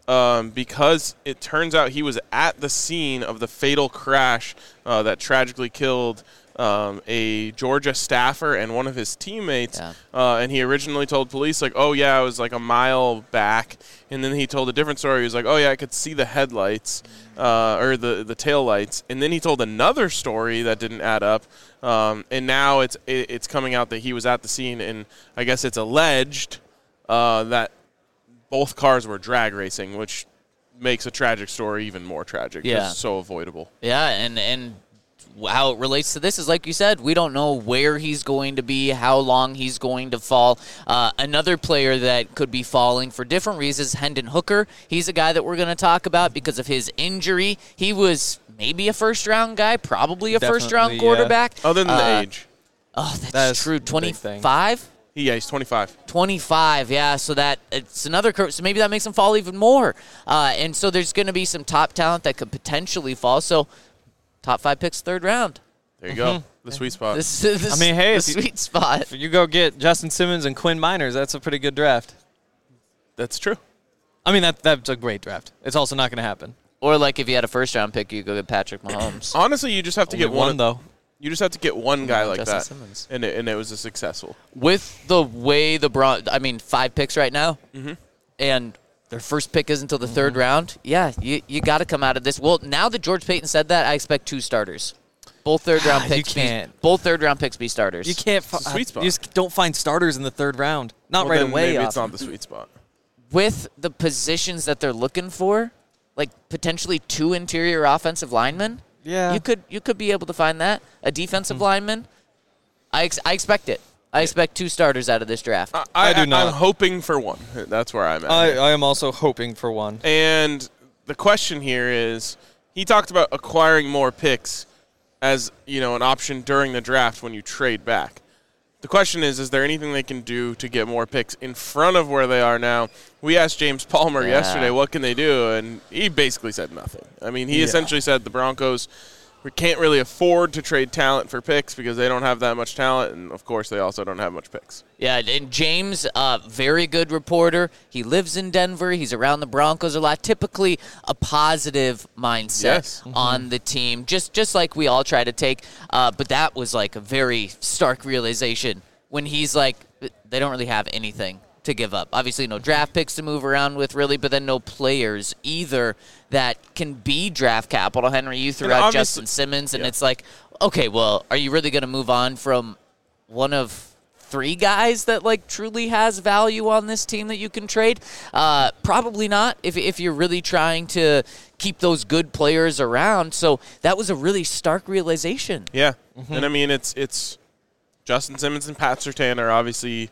um, because it turns out he was at the scene of the fatal crash uh, that tragically killed um, a Georgia staffer and one of his teammates. Yeah. Uh, and he originally told police, like, oh, yeah, I was like a mile back. And then he told a different story. He was like, oh, yeah, I could see the headlights uh, or the, the tail lights. And then he told another story that didn't add up. Um, and now it's it, it's coming out that he was at the scene, and I guess it's alleged uh, that both cars were drag racing, which makes a tragic story even more tragic. Yeah. It's so avoidable. Yeah, and, and how it relates to this is, like you said, we don't know where he's going to be, how long he's going to fall. Uh, another player that could be falling for different reasons, Hendon Hooker. He's a guy that we're going to talk about because of his injury. He was maybe a first-round guy, probably a Definitely, first-round yeah. quarterback. Other than Uh, the age. Oh, that's That is true. the big thing. twenty-five? Yeah, he's twenty-five. twenty-five, yeah. So that it's another curve. So maybe that makes him fall even more. Uh, and so there's going to be some top talent that could potentially fall. So top five picks, third round. There you go. The sweet spot. This, this I mean, hey, the if you- sweet spot. If you go get Justin Simmons and Quinn Miners, that's a pretty good draft. That's true. I mean, that that's a great draft. It's also not going to happen. Or like if you had a first round pick, you go get Patrick Mahomes. Honestly, you just have to Only get one, one, though. You just have to get one guy Yeah, like Justin that, Simmons. and it, and it was a successful. With the way the Bron, I mean, five picks right now, Mhm. and their first pick is until the third round. Yeah, you you got to come out of this. Well, now that George Payton said that, I expect two starters. Both third round You picks. can't. Be, both third round picks be starters. You can't. Fi- It's a sweet spot. You just don't find starters in the third round. Not Well, right then away. Maybe it's often. not the sweet spot. With the positions that they're looking for, like potentially two interior offensive linemen. Yeah. You could you could be able to find that. A defensive lineman. I ex- I expect it. I expect two starters out of this draft. I, I do not. I'm hoping for one. That's where I'm at. I, I am also hoping for one. And the question here is, he talked about acquiring more picks as, you know, an option during the draft when you trade back. The question is, is there anything they can do to get more picks in front of where they are now? We asked James Palmer Yeah. yesterday, what can they do? And he basically said nothing. I mean, he Yeah. essentially said the Broncos we can't really afford to trade talent for picks because they don't have that much talent, and, of course, they also don't have much picks. Yeah, and James, uh, very good reporter. He lives in Denver. He's around the Broncos a lot. Typically a positive mindset Yes. on the team, just just like we all try to take. Uh, but that was like a very stark realization when he's like, they don't really have anything to give up. Obviously, no draft picks to move around with, really, but then no players either that can be draft capital. Henry, you threw And out obviously- Justin Simmons, and yeah. it's like, okay, well, are you really going to move on from one of three guys that like truly has value on this team that you can trade? Uh, probably not if, if you're really trying to keep those good players around. So that was a really stark realization. Yeah, and I mean, it's it's Justin Simmons and Pat Surtain are obviously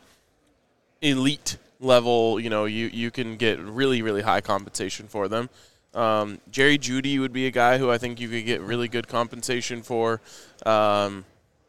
elite level. You know, you, you can get really, really high compensation for them. Um, Jerry Jeudy would be a guy who I think you could get really good compensation for. Um,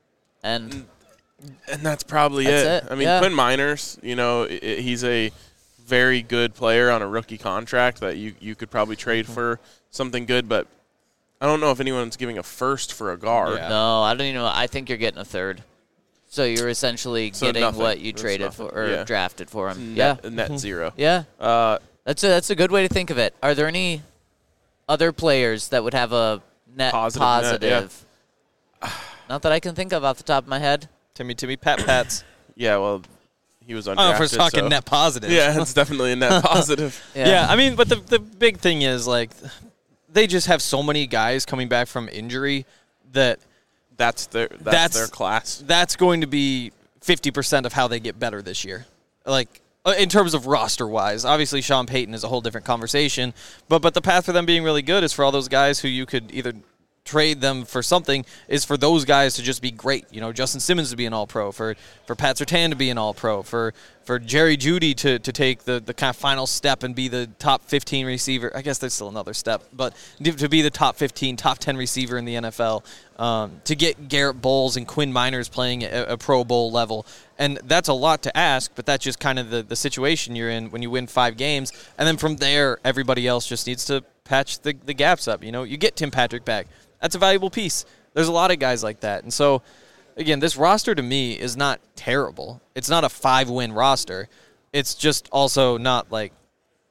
And and that's probably That's it. it, I mean, yeah. Quinn Miners, you know, i i- he's a very good player on a rookie contract that you, you could probably trade for something good, but I don't know if anyone's giving a first for a guard. Yeah. no, I don't even know. I think you're getting a third. So you're essentially So getting nothing. what you That's traded nothing. for or Yeah. drafted for him. Yeah. Net, net zero. Yeah. Uh, That's a, that's a good way to think of it. Are there any other players that would have a net Positive positive? net, Not that I can think of off the top of my head. Timmy, Timmy, Pat, Pats. yeah, well, he was undrafted. Oh, if we're talking so- net positive. Yeah, it's definitely a net positive. Yeah. I mean, but the the big thing is like they just have so many guys coming back from injury that That's their that's, That's- their class. that's going to be fifty percent of how they get better this year. Like uh, in terms of roster wise, obviously Sean Payton is a whole different conversation, but but the path for them being really good is for all those guys who you could either trade them for something is for those guys to just be great. You know, Justin Simmons to be an all-pro, for for Pat Surtain to be an all-pro, for for Jerry Jeudy to, to take the, the kind of final step and be the top fifteen receiver. I guess there's still another step, but to be the top fifteen, top ten receiver in the N F L, um, to get Garrett Bowles and Quinn Miners playing at a Pro Bowl level. And that's a lot to ask, but that's just kind of the, the situation you're in when you win five games. And then from there, everybody else just needs to patch the, the gaps up. You know, you get Tim Patrick back. That's a valuable piece. There's a lot of guys like that. And so, again, this roster to me is not terrible. It's not a five-win roster. It's just also not, like,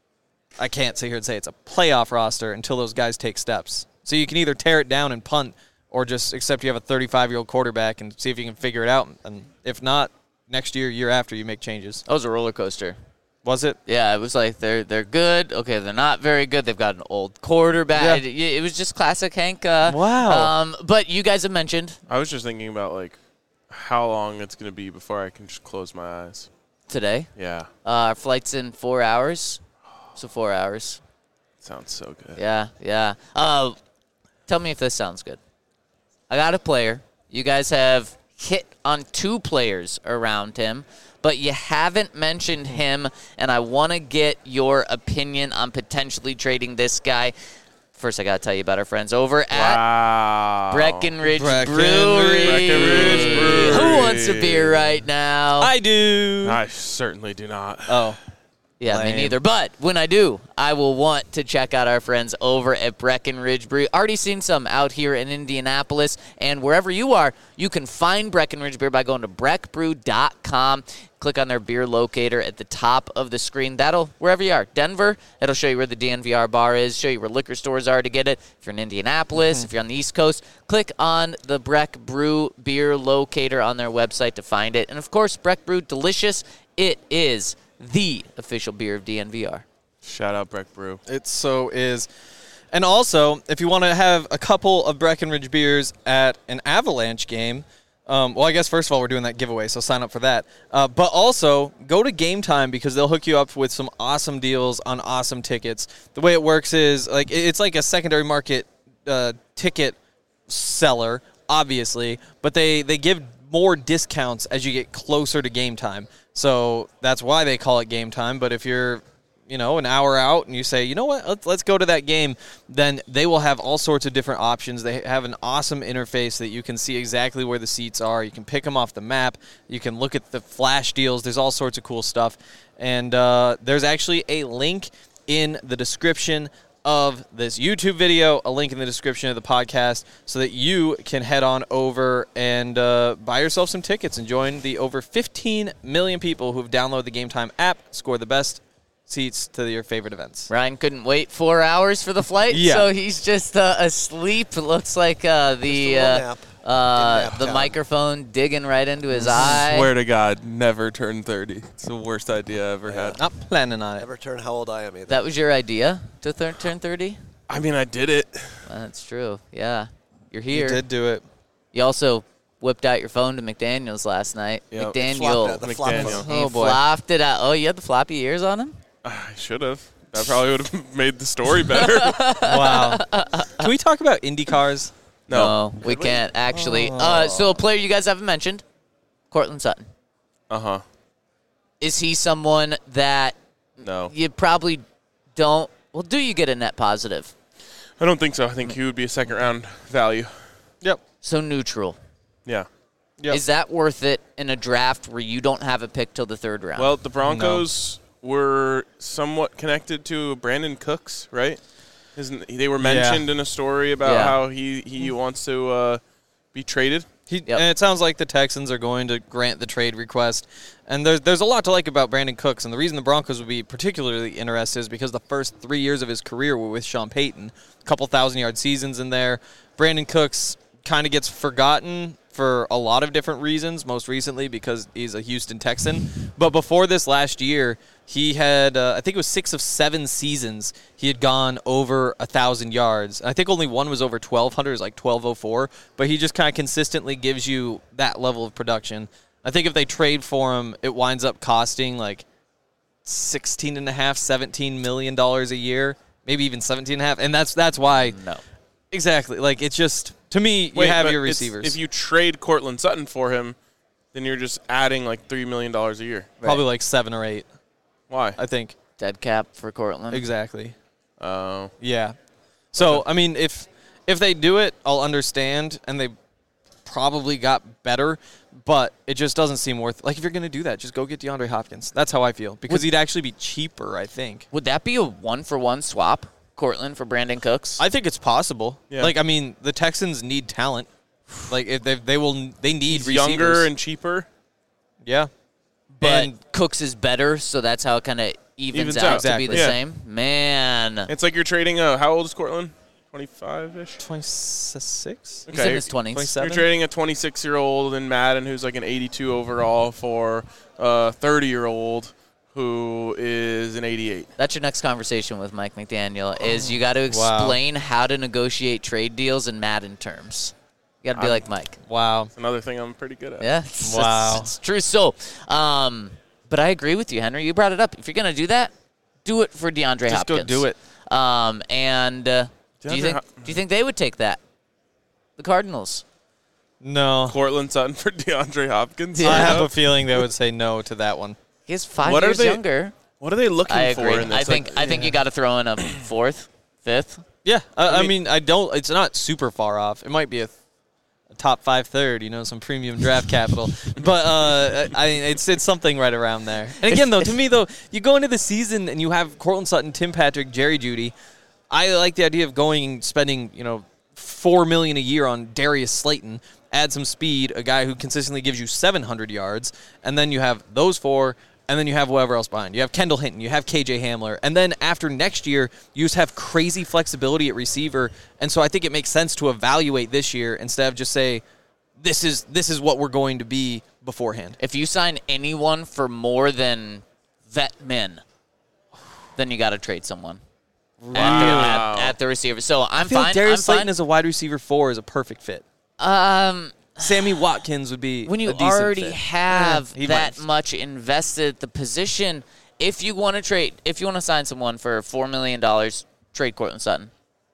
I can't sit here and say it's a playoff roster until those guys take steps. So you can either tear it down and punt or just accept you have a thirty-five-year-old quarterback and see if you can figure it out. And if not, next year, year after, you make changes. That was a roller coaster. Was it? Yeah, it was like they're they're good. Okay, they're not very good. They've got an old quarterback. Yeah. It, it was just classic Hank. Uh, Wow. Um, but you guys have mentioned I was just thinking about like how long it's gonna be before I can just close my eyes. today. Yeah, Uh, our flight's in four hours. So four hours. sounds so good. Yeah, yeah. Uh, tell me if this sounds good. I got a player. You guys have hit on two players around him, but you haven't mentioned him, and I want to get your opinion on potentially trading this guy. First, I got to tell you about our friends over at Wow. Breckenridge Breckenridge. Brewery. Breckenridge Brewery. Who wants a beer right now? I do. I certainly do not. Oh. Yeah, Lame. me neither. But when I do, I will want to check out our friends over at Breckenridge Brewery. Already seen some out here in Indianapolis, and wherever you are, you can find Breckenridge Beer by going to breck brew dot com. Click on their beer locator at the top of the screen. That'll, wherever you are, Denver, it'll show you where the D N V R bar is, show you where liquor stores are to get it. If you're in Indianapolis, mm-hmm. if you're on the East Coast, click on the Breck Brew beer locator on their website to find it. And, of course, Breck Brew, delicious. It is the official beer of D N V R. Shout out Breck Brew. It so is. And also, if you want to have a couple of Breckenridge beers at an Avalanche game, um, well, I guess first of all, we're doing that giveaway, so sign up for that. Uh, but also, go to Game Time because they'll hook you up with some awesome deals on awesome tickets. The way it works is, like, it's like a secondary market uh, ticket seller, obviously, but they, they give more discounts as you get closer to game time. So that's why they call it Game Time. But if you're, you know, an hour out and you say, you know what, let's, let's go to that game, then they will have all sorts of different options. They have an awesome interface that you can see exactly where the seats are. You can pick them off the map. You can look at the flash deals. There's all sorts of cool stuff. And uh, there's actually a link in the description of this YouTube video, a link in the description of the podcast, so that you can head on over and uh, buy yourself some tickets and join the over fifteen million people who've downloaded the Game Time app, score the best seats to your favorite events. Ryan couldn't wait four hours for the flight, Yeah. so he's just uh, asleep. It looks like uh, the Just a little uh, nap. uh, Nap the time. microphone digging right into his eye. Swear to God, never turn thirty. It's the worst idea I ever had. Not planning on it. Never turn how old I am either. That was your idea to th- turn thirty? I mean, I did it. Well, that's true. Yeah, you're You here. did do it. You also whipped out your phone to McDaniel's last night. Yep. McDaniel. Flopped it, the flop McDaniel. phone. He Oh, boy. flopped it out. Oh, you had the floppy ears on him? I should have. That probably would have made the story better. Wow. Can we talk about Indy cars? No. we we? can't actually. Uh, so a player you guys haven't mentioned, Cortland Sutton. Uh huh. Is he someone that No. you probably don't? Well, do you get a net positive? I don't think so. I think he would be a second round value. Yep. So neutral. Yeah. Yep. Is that worth it in a draft where you don't have a pick till the third round? Well, the Broncos were somewhat connected to Brandon Cooks, right? Isn't they were mentioned in a story about Yeah. how he, he wants to uh, be traded? He, Yep. And it sounds like the Texans are going to grant the trade request. And there's there's a lot to like about Brandon Cooks. And the reason the Broncos would be particularly interested is because the first three years of his career were with Sean Payton. A couple thousand-yard seasons in there. Brandon Cooks kind of gets forgotten for a lot of different reasons, most recently because he's a Houston Texan. But before this last year, he had, uh, I think it was six of seven seasons, he had gone over one thousand yards. I think only one was over twelve hundred, it was like twelve oh four. But he just kind of consistently gives you that level of production. I think if they trade for him, it winds up costing like sixteen and a half, seventeen million dollars a year, maybe even seventeen and a half. And that's that's why. no. Exactly. Like, it's just, to me, you Wait, have but your it's- receivers. If you trade Cortland Sutton for him, then you're just adding like three million dollars a year. Probably like seven or eight, Why? I think. Dead cap for Cortland. Exactly. Oh. Yeah. So, I mean, if if they do it, I'll understand, and they probably got better, but it just doesn't seem worth. Like, if you're going to do that, just go get DeAndre Hopkins. That's how I feel, because he'd actually be cheaper, I think. Would that be a one-for-one swap, Cortland for Brandon Cooks? I think it's possible. Yeah. Like, I mean, the Texans need talent. Like, if they they will they need He's receivers. younger and cheaper. yeah. but and Cooks is better, so that's how it kind of evens, Evens out, out. to Exactly. be the Yeah. same. Man, It's like you're trading a, how old is Cortland? twenty-five-ish? twenty-six? he's in his twenties. You're twenty-seven? trading a twenty-six-year-old in Madden who's like an eighty-two overall for a thirty-year-old who is an eighty-eight. That's your next conversation with Mike McDaniel. Is you got to explain how to negotiate trade deals in Madden terms. You got to be I'm- like Mike. Wow. It's another thing I'm pretty good at. Yeah. It's, Wow. It's, it's true. So, um, but I agree with you, Henry. You brought it up. If you're gonna do that, do it for DeAndre Just Hopkins. go do it. Um, and uh, do you DeAndre think Hop- do you think they would take that? The Cardinals. No. Cortland Sutton for DeAndre Hopkins. Yeah. I have a feeling they would say no to that one. He's five What are years they- younger. What are they looking I for agree. in this? I think Like, I think you got to throw in a fourth, fifth. Yeah, I, I, mean- mean, I don't. It's not super far off. It might be a, th- a top five third. You know, some premium draft capital. But uh, I mean, it's it's something right around there. And again, though, to me, though, you go into the season and you have Cortland Sutton, Tim Patrick, Jerry Jeudy. I like the idea of going and spending, you know, four million a year on Darius Slayton. Add some speed, a guy who consistently gives you seven hundred yards, and then you have those four. And then you have whoever else behind. You have Kendall Hinton. You have K J Hamler. And then after next year, you just have crazy flexibility at receiver. And so I think it makes sense to evaluate this year instead of just say, this is this is what we're going to be beforehand. If you sign anyone for more than vet men, then you got to trade someone at, the, Wow. at, at the receiver. So I'm I feel fine. like Darius I'm Slayton fine. as a wide receiver four is a perfect fit. um, Sammy Watkins would be when you a decent already fit. have Yeah, he that might. much invested at the position, if you want to trade, if you want to sign someone for four million dollars, trade Cortland Sutton.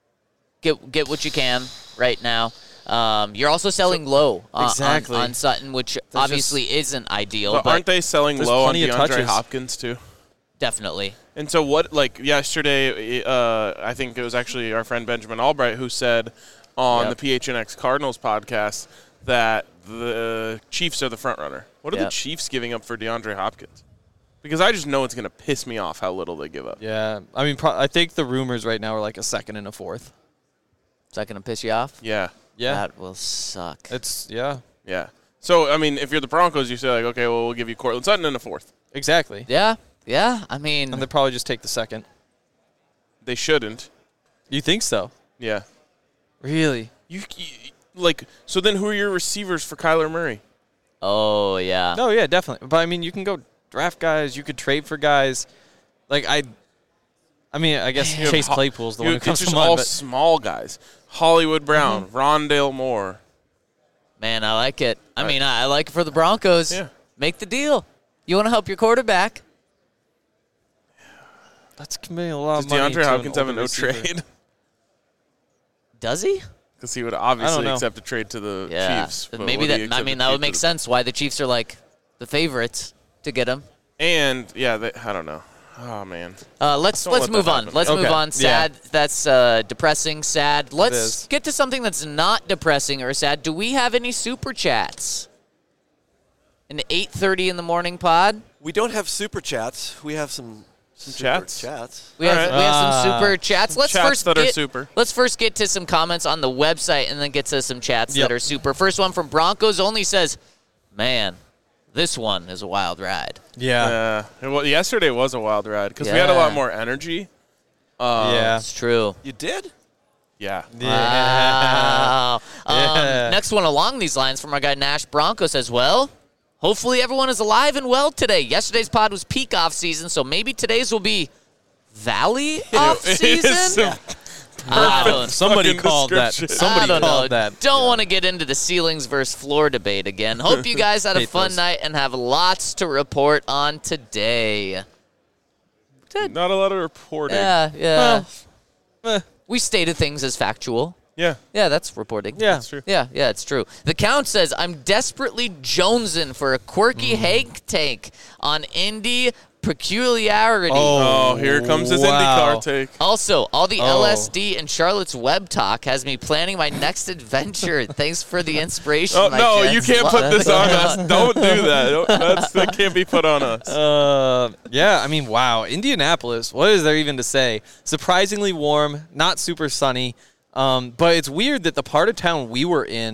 Get get what you can right now. Um, you're also selling low on, on- Exactly. on, Sutton, which obviously isn't ideal, But but, aren't they selling there's low on plenty of DeAndre touches. Hopkins too? definitely. And so what? Like yesterday, uh, I think it was actually our friend Benjamin Albright who said on Yep. the P H N X Cardinals podcast that the Chiefs are the front runner. What are Yep. the Chiefs giving up for DeAndre Hopkins? Because I just know it's going to piss me off how little they give up. Yeah, I mean, pro- I think the rumors right now are like a second and a fourth. Is that going to piss you off? Yeah, Yeah, That will suck. it's yeah, yeah. So I mean, if you're the Broncos, you say like, okay, well, we'll give you Cortland Sutton in a fourth. exactly. Yeah, yeah. I mean, And they probably just take the second. They shouldn't. You think so? Yeah. Really? You, you like so then who are your receivers for Kyler Murray? oh yeah. No, yeah, definitely. But I mean, you can go draft guys. You could trade for guys. Like I, I mean, I guess You have Chase Ho- Claypool's the you- one who comes it's to just all mind. But small guys. Hollywood Brown, Mm-hmm. Rondale Moore. Man, I like it. I Right. mean, I, I like it for the Broncos. Yeah. Make the deal. You want to help your quarterback? that's committing a lot Does of money. DeAndre to Hopkins an have a older no receiver. trade? Does he? Because he would obviously know. accept a trade to the Yeah. Chiefs. but Maybe would he that. I accept mean, a that trade would to make the- sense. Why the Chiefs are like the favorites to get him. And yeah, they, I don't know. Oh man. Uh, let's Don't let's let that move on. happen. Let's move Okay. on. Sad. That's uh, depressing. Sad. Let's is. get to something that's not depressing or sad. Do we have any super chats? An eight thirty in the morning pod. We don't have super chats. We have some, some super chats? chats. We have, All we have some Ah. super chats. Let's chats first that are get, super. Let's first get to some comments on the website and then get to some chats Yep. that are super. First one from Broncos only says, "Man, this one is a wild ride." Yeah, Yeah. It wa- yesterday was a wild ride because we had a Yeah. lot more energy. Uh, yeah, It's true. You did? Yeah. yeah. Wow. Um, Yeah. Next one along these lines from our guy Nash Bronco says, "Well, hopefully everyone is alive and well today. Yesterday's pod was peak off season, so maybe today's will be valley off It is season." some I don't, Somebody fucking called that. description. Somebody I don't called know. that. Don't want to get into the ceilings versus floor debate again. Hope you guys had a Hate fun those. night and have lots to report on today. Not a lot of reporting. Yeah, yeah. Eh, We stated things as factual. Yeah. Yeah, that's reporting. yeah, That's true. Yeah, yeah, it's true. The Count says, I'm desperately jonesing for a quirky Mm. Hank take on Indy peculiarity. Oh. Oh, here comes his Wow. IndyCar take. Also, all the Oh. L S D and Charlotte's web talk has me planning my next adventure. Thanks for the inspiration. Oh my no, gents. you can't put this on us. Don't do that. Don't- That's, that can't be put on us. Uh, yeah, I mean, wow. Indianapolis, what is there even to say? Surprisingly warm, not super sunny. Um, but it's weird that the part of town we were in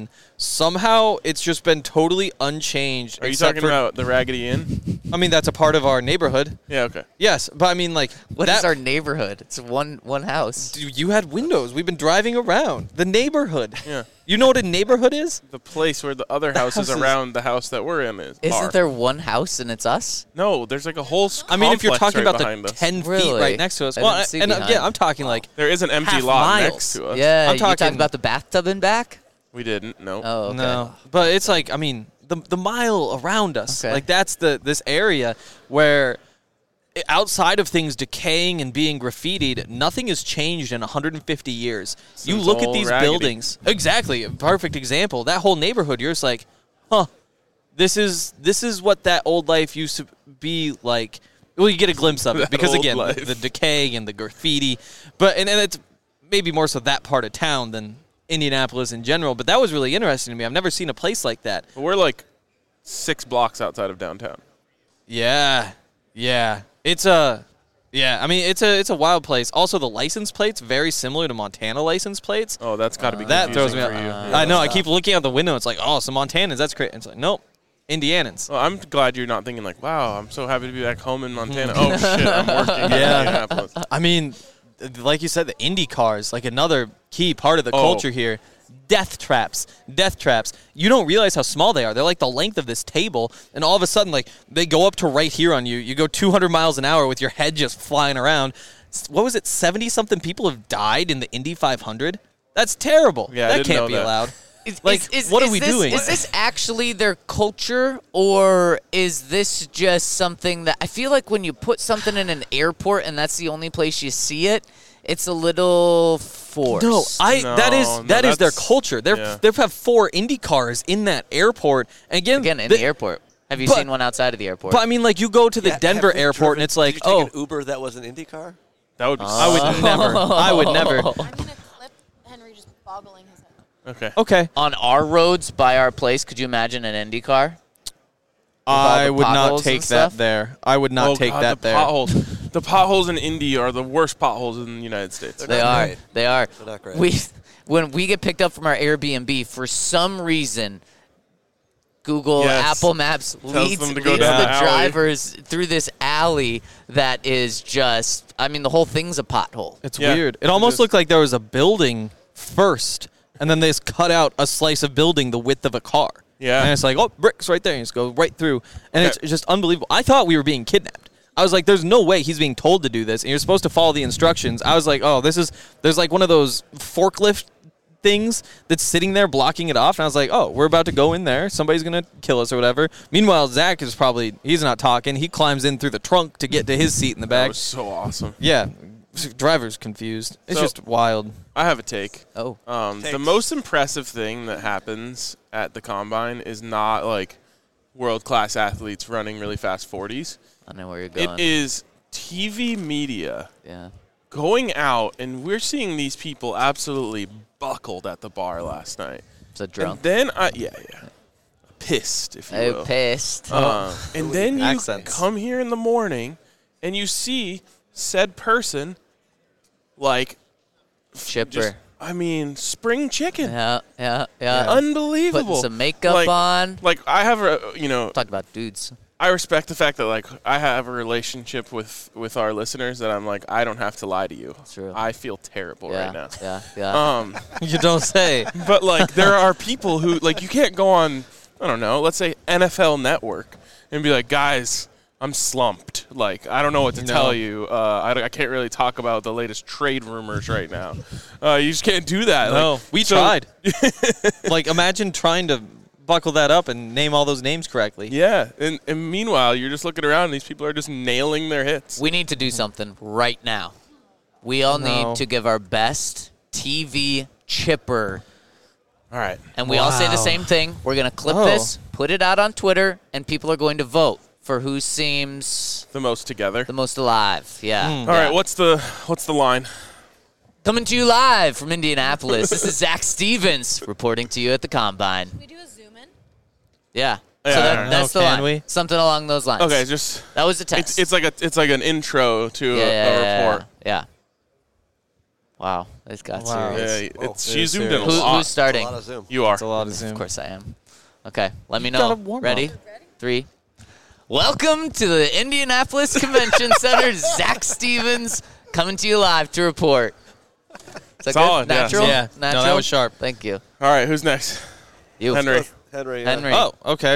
somehow it's just been totally unchanged. Are you except talking for, about the Raggedy Inn? I mean, that's a part of our neighborhood. Yeah, okay. Yes, but I mean, like, What that, is our neighborhood? It's one one house. Dude, you had windows. We've been driving around. The neighborhood. Yeah. You know what a neighborhood is? The place where the other houses, houses- around the house that we're in is. Isn't are. there one house and it's us? No, there's like a whole s- I mean, if you're complex talking right about behind the us. ten feet Really? right next to us. I Well, didn't see and uh, behind. yeah, I'm talking like There is an empty half lot miles. next to us. Yeah, I'm you talking talking- about the bathtub in back? We didn't, no. Oh, okay. no, but it's like I mean the the mile around us. Okay. Like that's the this area where i- outside of things decaying and being graffitied, nothing has changed in one hundred fifty years. you Since look at old these Raggedy. buildings. Exactly, a perfect example. That whole neighborhood, you're just like, huh. This is this is what that old life used to be like. Well, you get a glimpse of it That because old again, the, life. the decay and the graffiti, but and, and it's maybe more so that part of town than Indianapolis in general. But that was really interesting to me. I've never seen a place like that. But we're like six blocks outside of downtown. Yeah, yeah, it's a yeah. I mean, it's a it's a wild place. Also, the license plates very similar to Montana license plates. Oh, that's got to be that throws confusing me for out. you. I know. I keep looking out the window. It's like, oh, some Montanans. That's great. It's like, nope, Indianans. Well, I'm glad you're not thinking like, wow, I'm so happy to be back home in Montana. Oh, shit, I'm working in Yeah. Indianapolis. I mean, th- like you said, the Indy cars, like another key part of the Oh. culture here. Death traps, death traps. You don't realize how small they are. They're like the length of this table, and all of a sudden, like they go up to right here on you. You go two hundred miles an hour with your head just flying around. S- What was it? seventy something people have died in the Indy five hundred. That's terrible. Yeah, I that didn't can't know be that. allowed. Is, Like, is- is- what are is we this- doing? Is this actually their culture, or is this just something that I feel like when you put something in an airport and that's the only place you see it, it's a little forced. No, I No, that is no, that is their that's- culture. They're yeah. they have four Indy cars in that airport. And again, Again, in the- the airport. Have you but- seen one outside of the airport? But I mean, like you go to the Yeah, Denver have you airport driven- and it's like, did you oh, take an Uber that was an IndyCar? That would be I would sick. never. I would never. I'm gonna clip Henry just boggling his head. Okay. Okay, On our roads by our place, could you imagine an Indy car? I the would not potholes take and that stuff? there. I would not oh, take God, that the there. Potholes. The potholes in Indy are the worst potholes in the United States. They not are. great. They are. They're not great. We, when we get picked up from our Airbnb, for some reason, Google Yes. Apple Maps leads, them to go leads down the the alley. drivers through this alley that is just. I mean, the whole thing's a pothole. It's Yeah, weird. It it almost is. looked like there was a building first, and then they just cut out a slice of building the width of a car. Yeah. And it's like, oh, bricks right there. And you just go right through. And Okay. it's just unbelievable. I thought we were being kidnapped. I was like, there's no way he's being told to do this. And you're supposed to follow the instructions. I was like, oh, this is, there's like one of those forklift things that's sitting there blocking it off. And I was like, oh, we're about to go in there. Somebody's going to kill us or whatever. Meanwhile, Zach is probably, he's not talking. He climbs in through the trunk to get to his seat in the That back. was so awesome. Yeah. Driver's confused. It's So- just wild. I have a take. Oh, Um, the Takes. most impressive thing that happens at the combine is not like world class athletes running really fast forties. I know where you're It going. is T V media yeah. going out, and we're seeing these people absolutely buckled at the bar last night. So drunk. And then I, yeah, yeah, pissed, if you Oh, will. pissed. Uh, and then you Accents. come here in the morning, and you see said person, like, Chipper. just, I mean, spring chicken. yeah, yeah, yeah. Unbelievable. Putting some makeup Like- on. Like I have a, you know, Talk about dudes. I respect the fact that like I have a relationship with with our listeners that I'm like I don't have to lie to you. True. I feel terrible Yeah, right now. yeah, yeah. Um, You don't say. but like there are people who like you can't go on I don't know, let's say N F L Network and be like, guys, I'm slumped. Like I don't know what to No. tell you. Uh, I, don't- I can't really talk about the latest trade rumors right now. Uh, you just can't do that. No, Like, we so- tried. Like, imagine trying to buckle that up and name all those names correctly. Yeah, and, and meanwhile you're just looking around and these people are just nailing their hits. We need to do something right now. We all No. need to give our best T V chipper. All right. And we all say the Wow. same thing. We're going to clip Oh. this, put it out on Twitter, and people are going to vote for who seems The most together. the most alive. Yeah. Hmm. All yeah. right, what's the what's the line? Coming to you live from Indianapolis. This is Zach Stevens reporting to you at the Combine. Can we do a zoom in? Yeah. Yeah, so I that, don't know. that's the Can line. we? Something along those lines. Okay, just That was the test. it's it's like a it's like an intro to yeah, a, yeah, a yeah, report. Yeah. Wow, this got Wow. Yeah, serious. it's, Whoa. she Yeah, zoomed in a serious. Who, lot. who's starting? A lot of Zoom. You are. It's a lot of Zoom. Of course I am. Okay, let me You know. gotta warm Ready? up. Three. Welcome to the Indianapolis Convention Center. Zach Stevens coming to you live to report. Is that Solid, good? yeah. Natural? Yeah. No, Natural? that was sharp. Thank you. All right, who's next? You. Henry. Henry. uh, Henry. Oh, okay.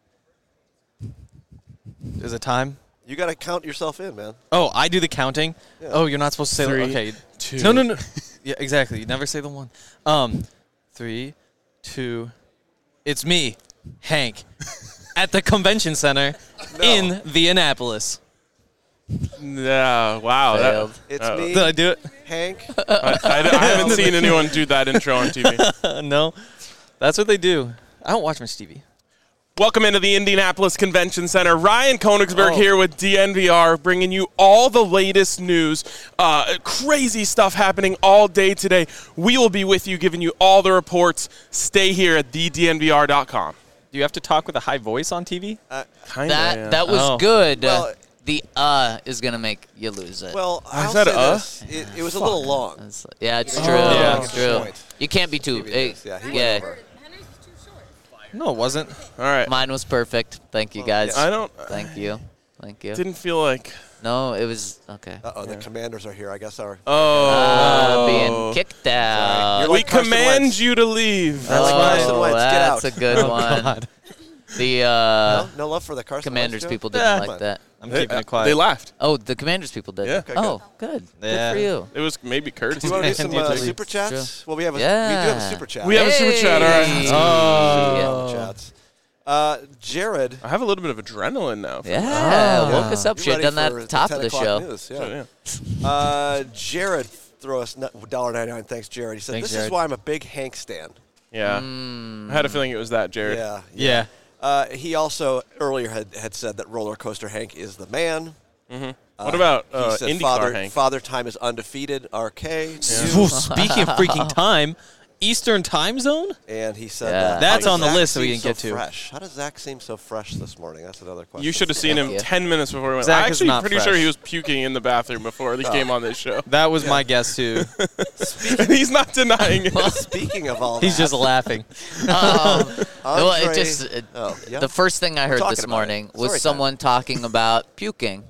Is it time? You got to count yourself in, man. Oh, I do the counting. Oh, you're not supposed to say. Three, okay. two. No, no, no. Yeah, exactly. You never say the one. Um, three, two. It's me, Hank, at the convention center in Indianapolis. Yeah, wow. that- Failed. It's Oh. me, Did I do Hank. I, I, I haven't seen anyone do that intro on T V. it? No. That's what they do. I don't watch much T V. Welcome into the Indianapolis Convention Center. Ryan Koenigsberg Oh. here with D N V R, bringing you all the latest news. Uh, crazy stuff happening all day today. We will be with you, giving you all the reports. Stay here at the D N V R dot com. Do you have to talk with a high voice on T V? Kinda, That yeah. that was Oh. good. Well- the uh is gonna make you lose it. Well, I I'll said, say uh? this. It, it was a little long. It's- yeah, it's Oh. true. Yeah. It's true. Point. You can't be too. Maybe it eh, is. Yeah, he yeah. went over. No, it wasn't. All right. Mine was perfect. Thank you guys. I don't. Thank you. Thank you. Didn't feel like. No, it was okay. Uh-oh, the commanders are here. I guess our. Oh. Uh, being kicked out. You're we like Carson command Wentz. you to leave. That's like oh, Carson Wentz. Get that's out. a good one. God. The uh, no, no love for the Carson Commanders Wentz joke? people didn't Yeah. like that. I'm They, keeping uh, it quiet. they laughed. Oh, the Commanders people did. Yeah. Okay, Oh, good. Yeah. Good for you. It was maybe Curtis. Do you want to do some And you uh, too. super chats? Well, we have a we do Yeah. have a super chat. We have a super chat, all right. Hey. Oh. Super chats. Uh, Jared, I have a little bit of adrenaline now. Yeah, Oh. woke us up. you Should have ready done that for at the top ten of the o'clock show. News? Yeah. So, yeah. Uh, Jared, throw us one dollar ninety-nine. Thanks, Jared. He said, Thanks, "This Jared. is why I'm a big Hank stan." Yeah. Mm. I had a feeling it was that, Jared. Yeah. Yeah. Uh, he also earlier had, had said that Roller Coaster Hank is the man. What about He uh, said IndyCar Father, Hank? Father Time is undefeated. R K. Ooh, speaking of freaking time, Eastern time zone? And he said Yeah. that. That's How on does the Zach list that we seem didn't get so to. Fresh. How does Zach seem so fresh this morning? That's another question. You should have seen him Yeah. ten minutes before we went. Zach I'm is actually not pretty fresh. sure he was puking in the bathroom before he came on this show. That was my guess, too. And he's not denying it. Speaking of all He's that, just laughing. Um, well, it Andre- just it, Oh, yeah. the first thing I heard talking this about it. morning Story time. was someone talking about puking.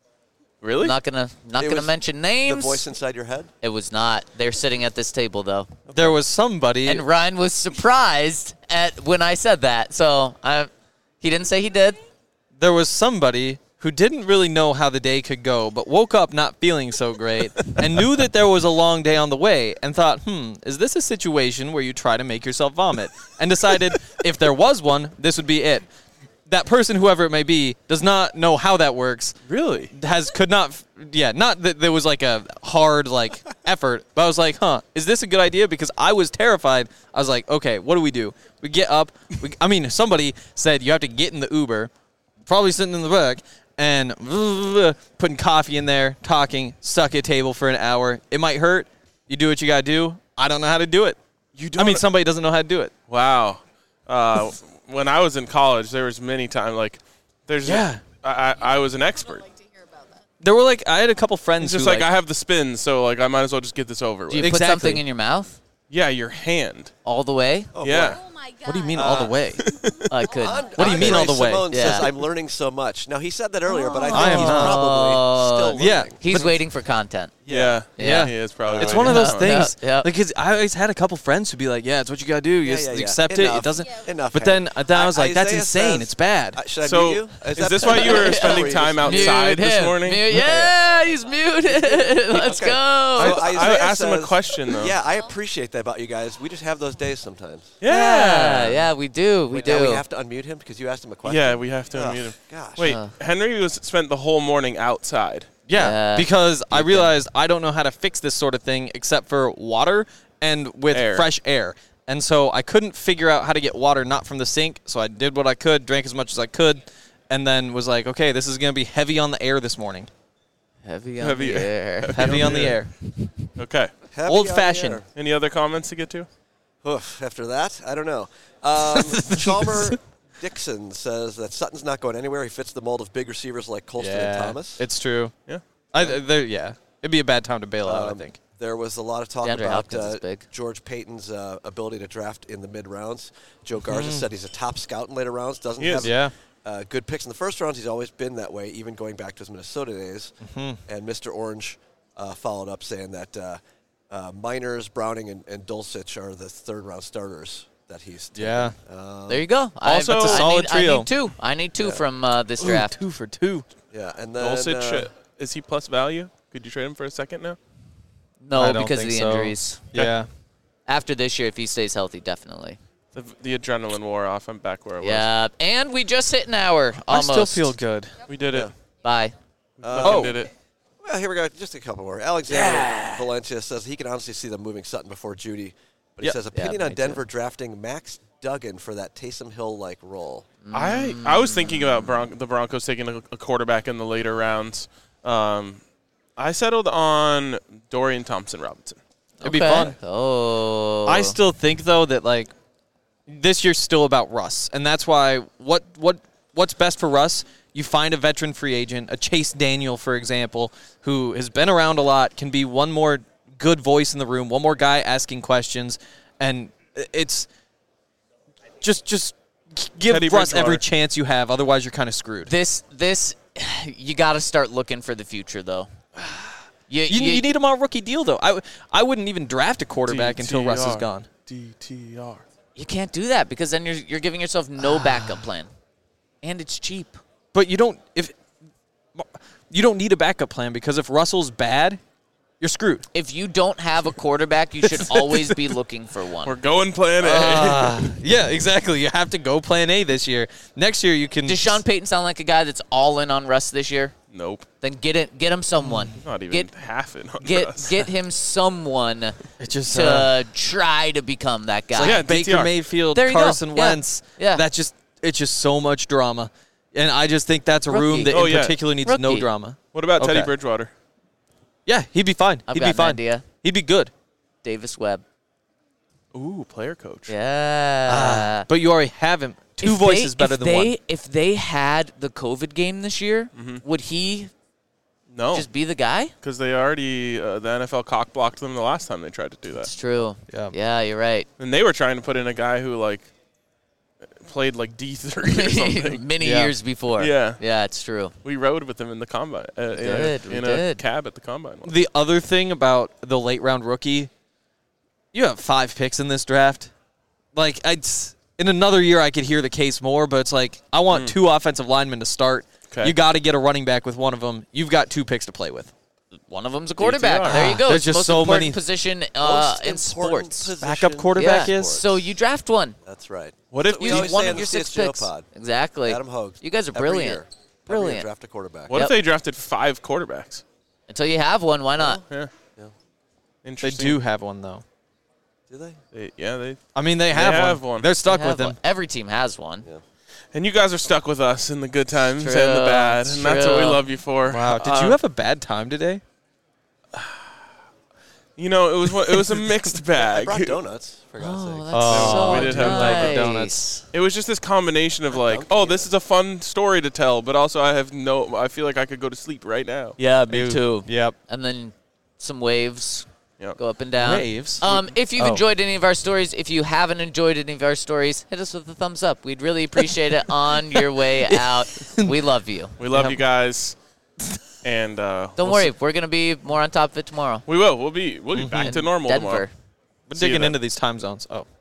Really? Not gonna not It gonna was mention the names. voice inside your head. It was not. They're sitting at this table though, There was somebody. and Ryan was surprised at when I said that. So I, he didn't say he did. there was somebody who didn't really know how the day could go, but woke up not feeling so great and knew that there was a long day on the way and thought, hmm, is this a situation where you try to make yourself vomit? And decided if there was one, this would be it. That person, whoever it may be, does not know how that works. Really? Has could not, yeah, not that there was like a hard like effort, but I was like, huh, is this a good idea? Because I was terrified. I was like, okay, what do we do? We get up. We, I mean, somebody said you have to get in the Uber, probably sitting in the back, and putting coffee in there, talking, stuck at a table for an hour. It might hurt. You do what you gotta do. I don't know how to do it. You I mean, somebody doesn't know how to do it. Wow. Uh, when I was in college, there was many times like, there's Yeah. I, I I was an expert. There were like I had a couple friends It's just who like, I have the spins, so like I might as well just get this over with. Do you put Exactly. something in your mouth Yeah, your hand. all the way? Oh, yeah. boy. Oh my god. What do you mean all the way? I could. What do you mean all the way? Simone says, Yeah. I'm learning so much. Now, he said that earlier, but I think I am he's not. probably still learning. Yeah. He's waiting for content. Yeah. Yeah. He is probably. It's waiting one of for those that things. Yeah, yeah. Like, 'cause I always had a couple friends who'd be like, "Yeah, it's what you gotta do. You Yeah, just yeah, yeah. accept it. Enough. It doesn't." Enough. But then, Hank. then I was like, "That's Isaiah insane. says- it's bad." Uh, should I So, mute you? is that this why you were Or spending you time just- out- outside Mute this him. morning? Mute- yeah, he's muted. Let's Okay. go. I, So I Isaiah asked him a says- question though. Yeah, I appreciate that about you guys. We just have those days sometimes. yeah, yeah, we do. We Wait, do. now we have to unmute him because you asked him a question. Yeah, we have to Ugh, unmute him. Gosh. Wait, Uh. Henry was spent the whole morning outside. Yeah, Yeah. because I realized I don't know how to fix this sort of thing except for water and with Air. fresh air. And so I couldn't figure out how to get water not from the sink, so I did what I could, drank as much as I could, and then was like, okay, this is going to be heavy on the air this morning. Heavy on Heavy- the air. Heavy on the air. Okay. Heavy Old on fashioned. the air. Any other comments to get to? Oof, after that, I don't know. Um, Chalmer Dixon says that Sutton's not going anywhere. He fits the mold of big receivers like Colston and Thomas. It's true. Yeah. I, there, yeah. It'd be a bad time to bail out, Um, I think. There was a lot of talk DeAndre about Hopkins is uh, big. George Payton's uh, ability to draft in the mid rounds. Joe Garza said he's a top scout in later rounds. Doesn't He is. have Yeah. uh, good picks in the first rounds. He's always been that way, even going back to his Minnesota days. And Mister Orange uh, followed up saying that uh, uh, Miners, Browning, and, and Dulcich are the third round starters that he's taken. Yeah. Um, There you go. Also- I, That's a I solid need, trio. I need two. I need two from uh, this Ooh, draft. two for two. yeah, and then Dulcich, uh, is he plus value? Could you trade him for a second now? No, I don't because of think the so. injuries. Yeah. After this year, if he stays healthy, definitely. The, the adrenaline wore off. I'm back where I was. Yeah, and we just hit an hour. Almost. I still feel good. We did it. Yeah. Bye. Uh, Fucking Oh. did it. Well, here we go. Just a couple more. Alexander Valencia says he can honestly see them moving Sutton before Judy. But he Yep. says Yeah, opinion me on too. Denver drafting Max Duggan for that Taysom Hill-like role. I I was thinking about Bron- the Broncos taking a, a quarterback in the later rounds. Um, I settled on Dorian Thompson-Robinson. It'd be Okay. fun. Oh. I still think though that like this year's still about Russ, and that's why what what what's best for Russ. You find a veteran free agent, a Chase Daniel, for example, who has been around a lot, can be one more good voice in the room, one more guy asking questions, and it's just just give Teddy Russ every Bridgewater. chance you have. Otherwise, you're kind of screwed. This this you got to start looking for the future though. You, You, you- you need him on a rookie deal, though. I, w- I wouldn't even draft a quarterback until Russ is D T R. gone. D T R. you can't do that because then you're you're giving yourself no backup plan, and it's cheap. But you don't if you don't need a backup plan because if Russell's bad, you're screwed. If you don't have a quarterback, you should always be looking for one. We're going plan A. Uh, yeah, exactly. You have to go plan A this year. Next year you can. Does Sean Payton sound like a guy that's all in on Russ this year? Nope. Then get it, get him someone. Not even Get half it on get us. get him someone It just to uh, try to become that guy. like Yeah, Baker D T R. Mayfield, There you go. Carson Yeah. Wentz. Yeah. That just it's just so much drama, and I just think that's a room Rookie. that Oh, in yeah. particular needs no Rookie. drama. What about Teddy Okay. Bridgewater? Yeah, he'd be fine. I've he'd got be an fine. idea. He'd be good. Davis Webb. Ooh, player coach. Yeah. But you already have him. Two If voices they, better if than they, one. If they had the COVID game this year, would he No, just be the guy? because they already uh, the N F L cock blocked them the last time they tried to do It's that, true. Yeah. Yeah, you're right. and they were trying to put in a guy who like played like D three or something. Many Yeah. years before. Yeah. Yeah, it's true. We rode with him in the combine. Uh, in did, a, we in did. a cab at the combine. once. The other thing about the late round rookie, you have five picks in this draft. Like, I'd, in another year, I could hear the case more, but it's like, I want two offensive linemen to start. Okay. You got to get a running back with one of them. You've got two picks to play with. One of them's a quarterback. D T R. There you go. There's It's just the most so important many- position uh, Most in important sports. position Backup quarterback Yeah. is? So you draft one. That's right. What if We we? always one say of on your the six C S G O picks. pod. Exactly. Adam Hogue. You guys are Every brilliant. year. Every year Brilliant. draft a quarterback. What Yep. if they drafted five quarterbacks? Until you have one, why not? Yeah. Yeah. They Interesting. do have one, though. Do they? They, yeah, they. I mean, they have, have one. one. They're stuck You with have him. one. Every team has one. Yeah. And you guys are stuck with us in the good times True, and the bad, it's and that's what we true. love you for. Wow. Did Uh, you have a bad time today? You know, it was one- it was a mixed I bag. brought donuts, for God's Oh, sake. that's Oh, so we did have nice. Dunkin' Donuts. It was just this combination of like, oh, this is a fun story to tell, but also I have no. I feel like I could go to sleep right now. Yeah, me too. Yep. And then some waves Yep. go up and down. Waves? Um, if you've Oh. enjoyed any of our stories, if you haven't enjoyed any of our stories, hit us with a thumbs up. We'd really appreciate it on your way out. We love you. We love Yep. you guys, and uh, Don't we'll worry, s- we're gonna be more on top of it tomorrow. we will. We'll be. We'll be back In to normal Denver. tomorrow. We're See you digging then. into these time zones. Oh.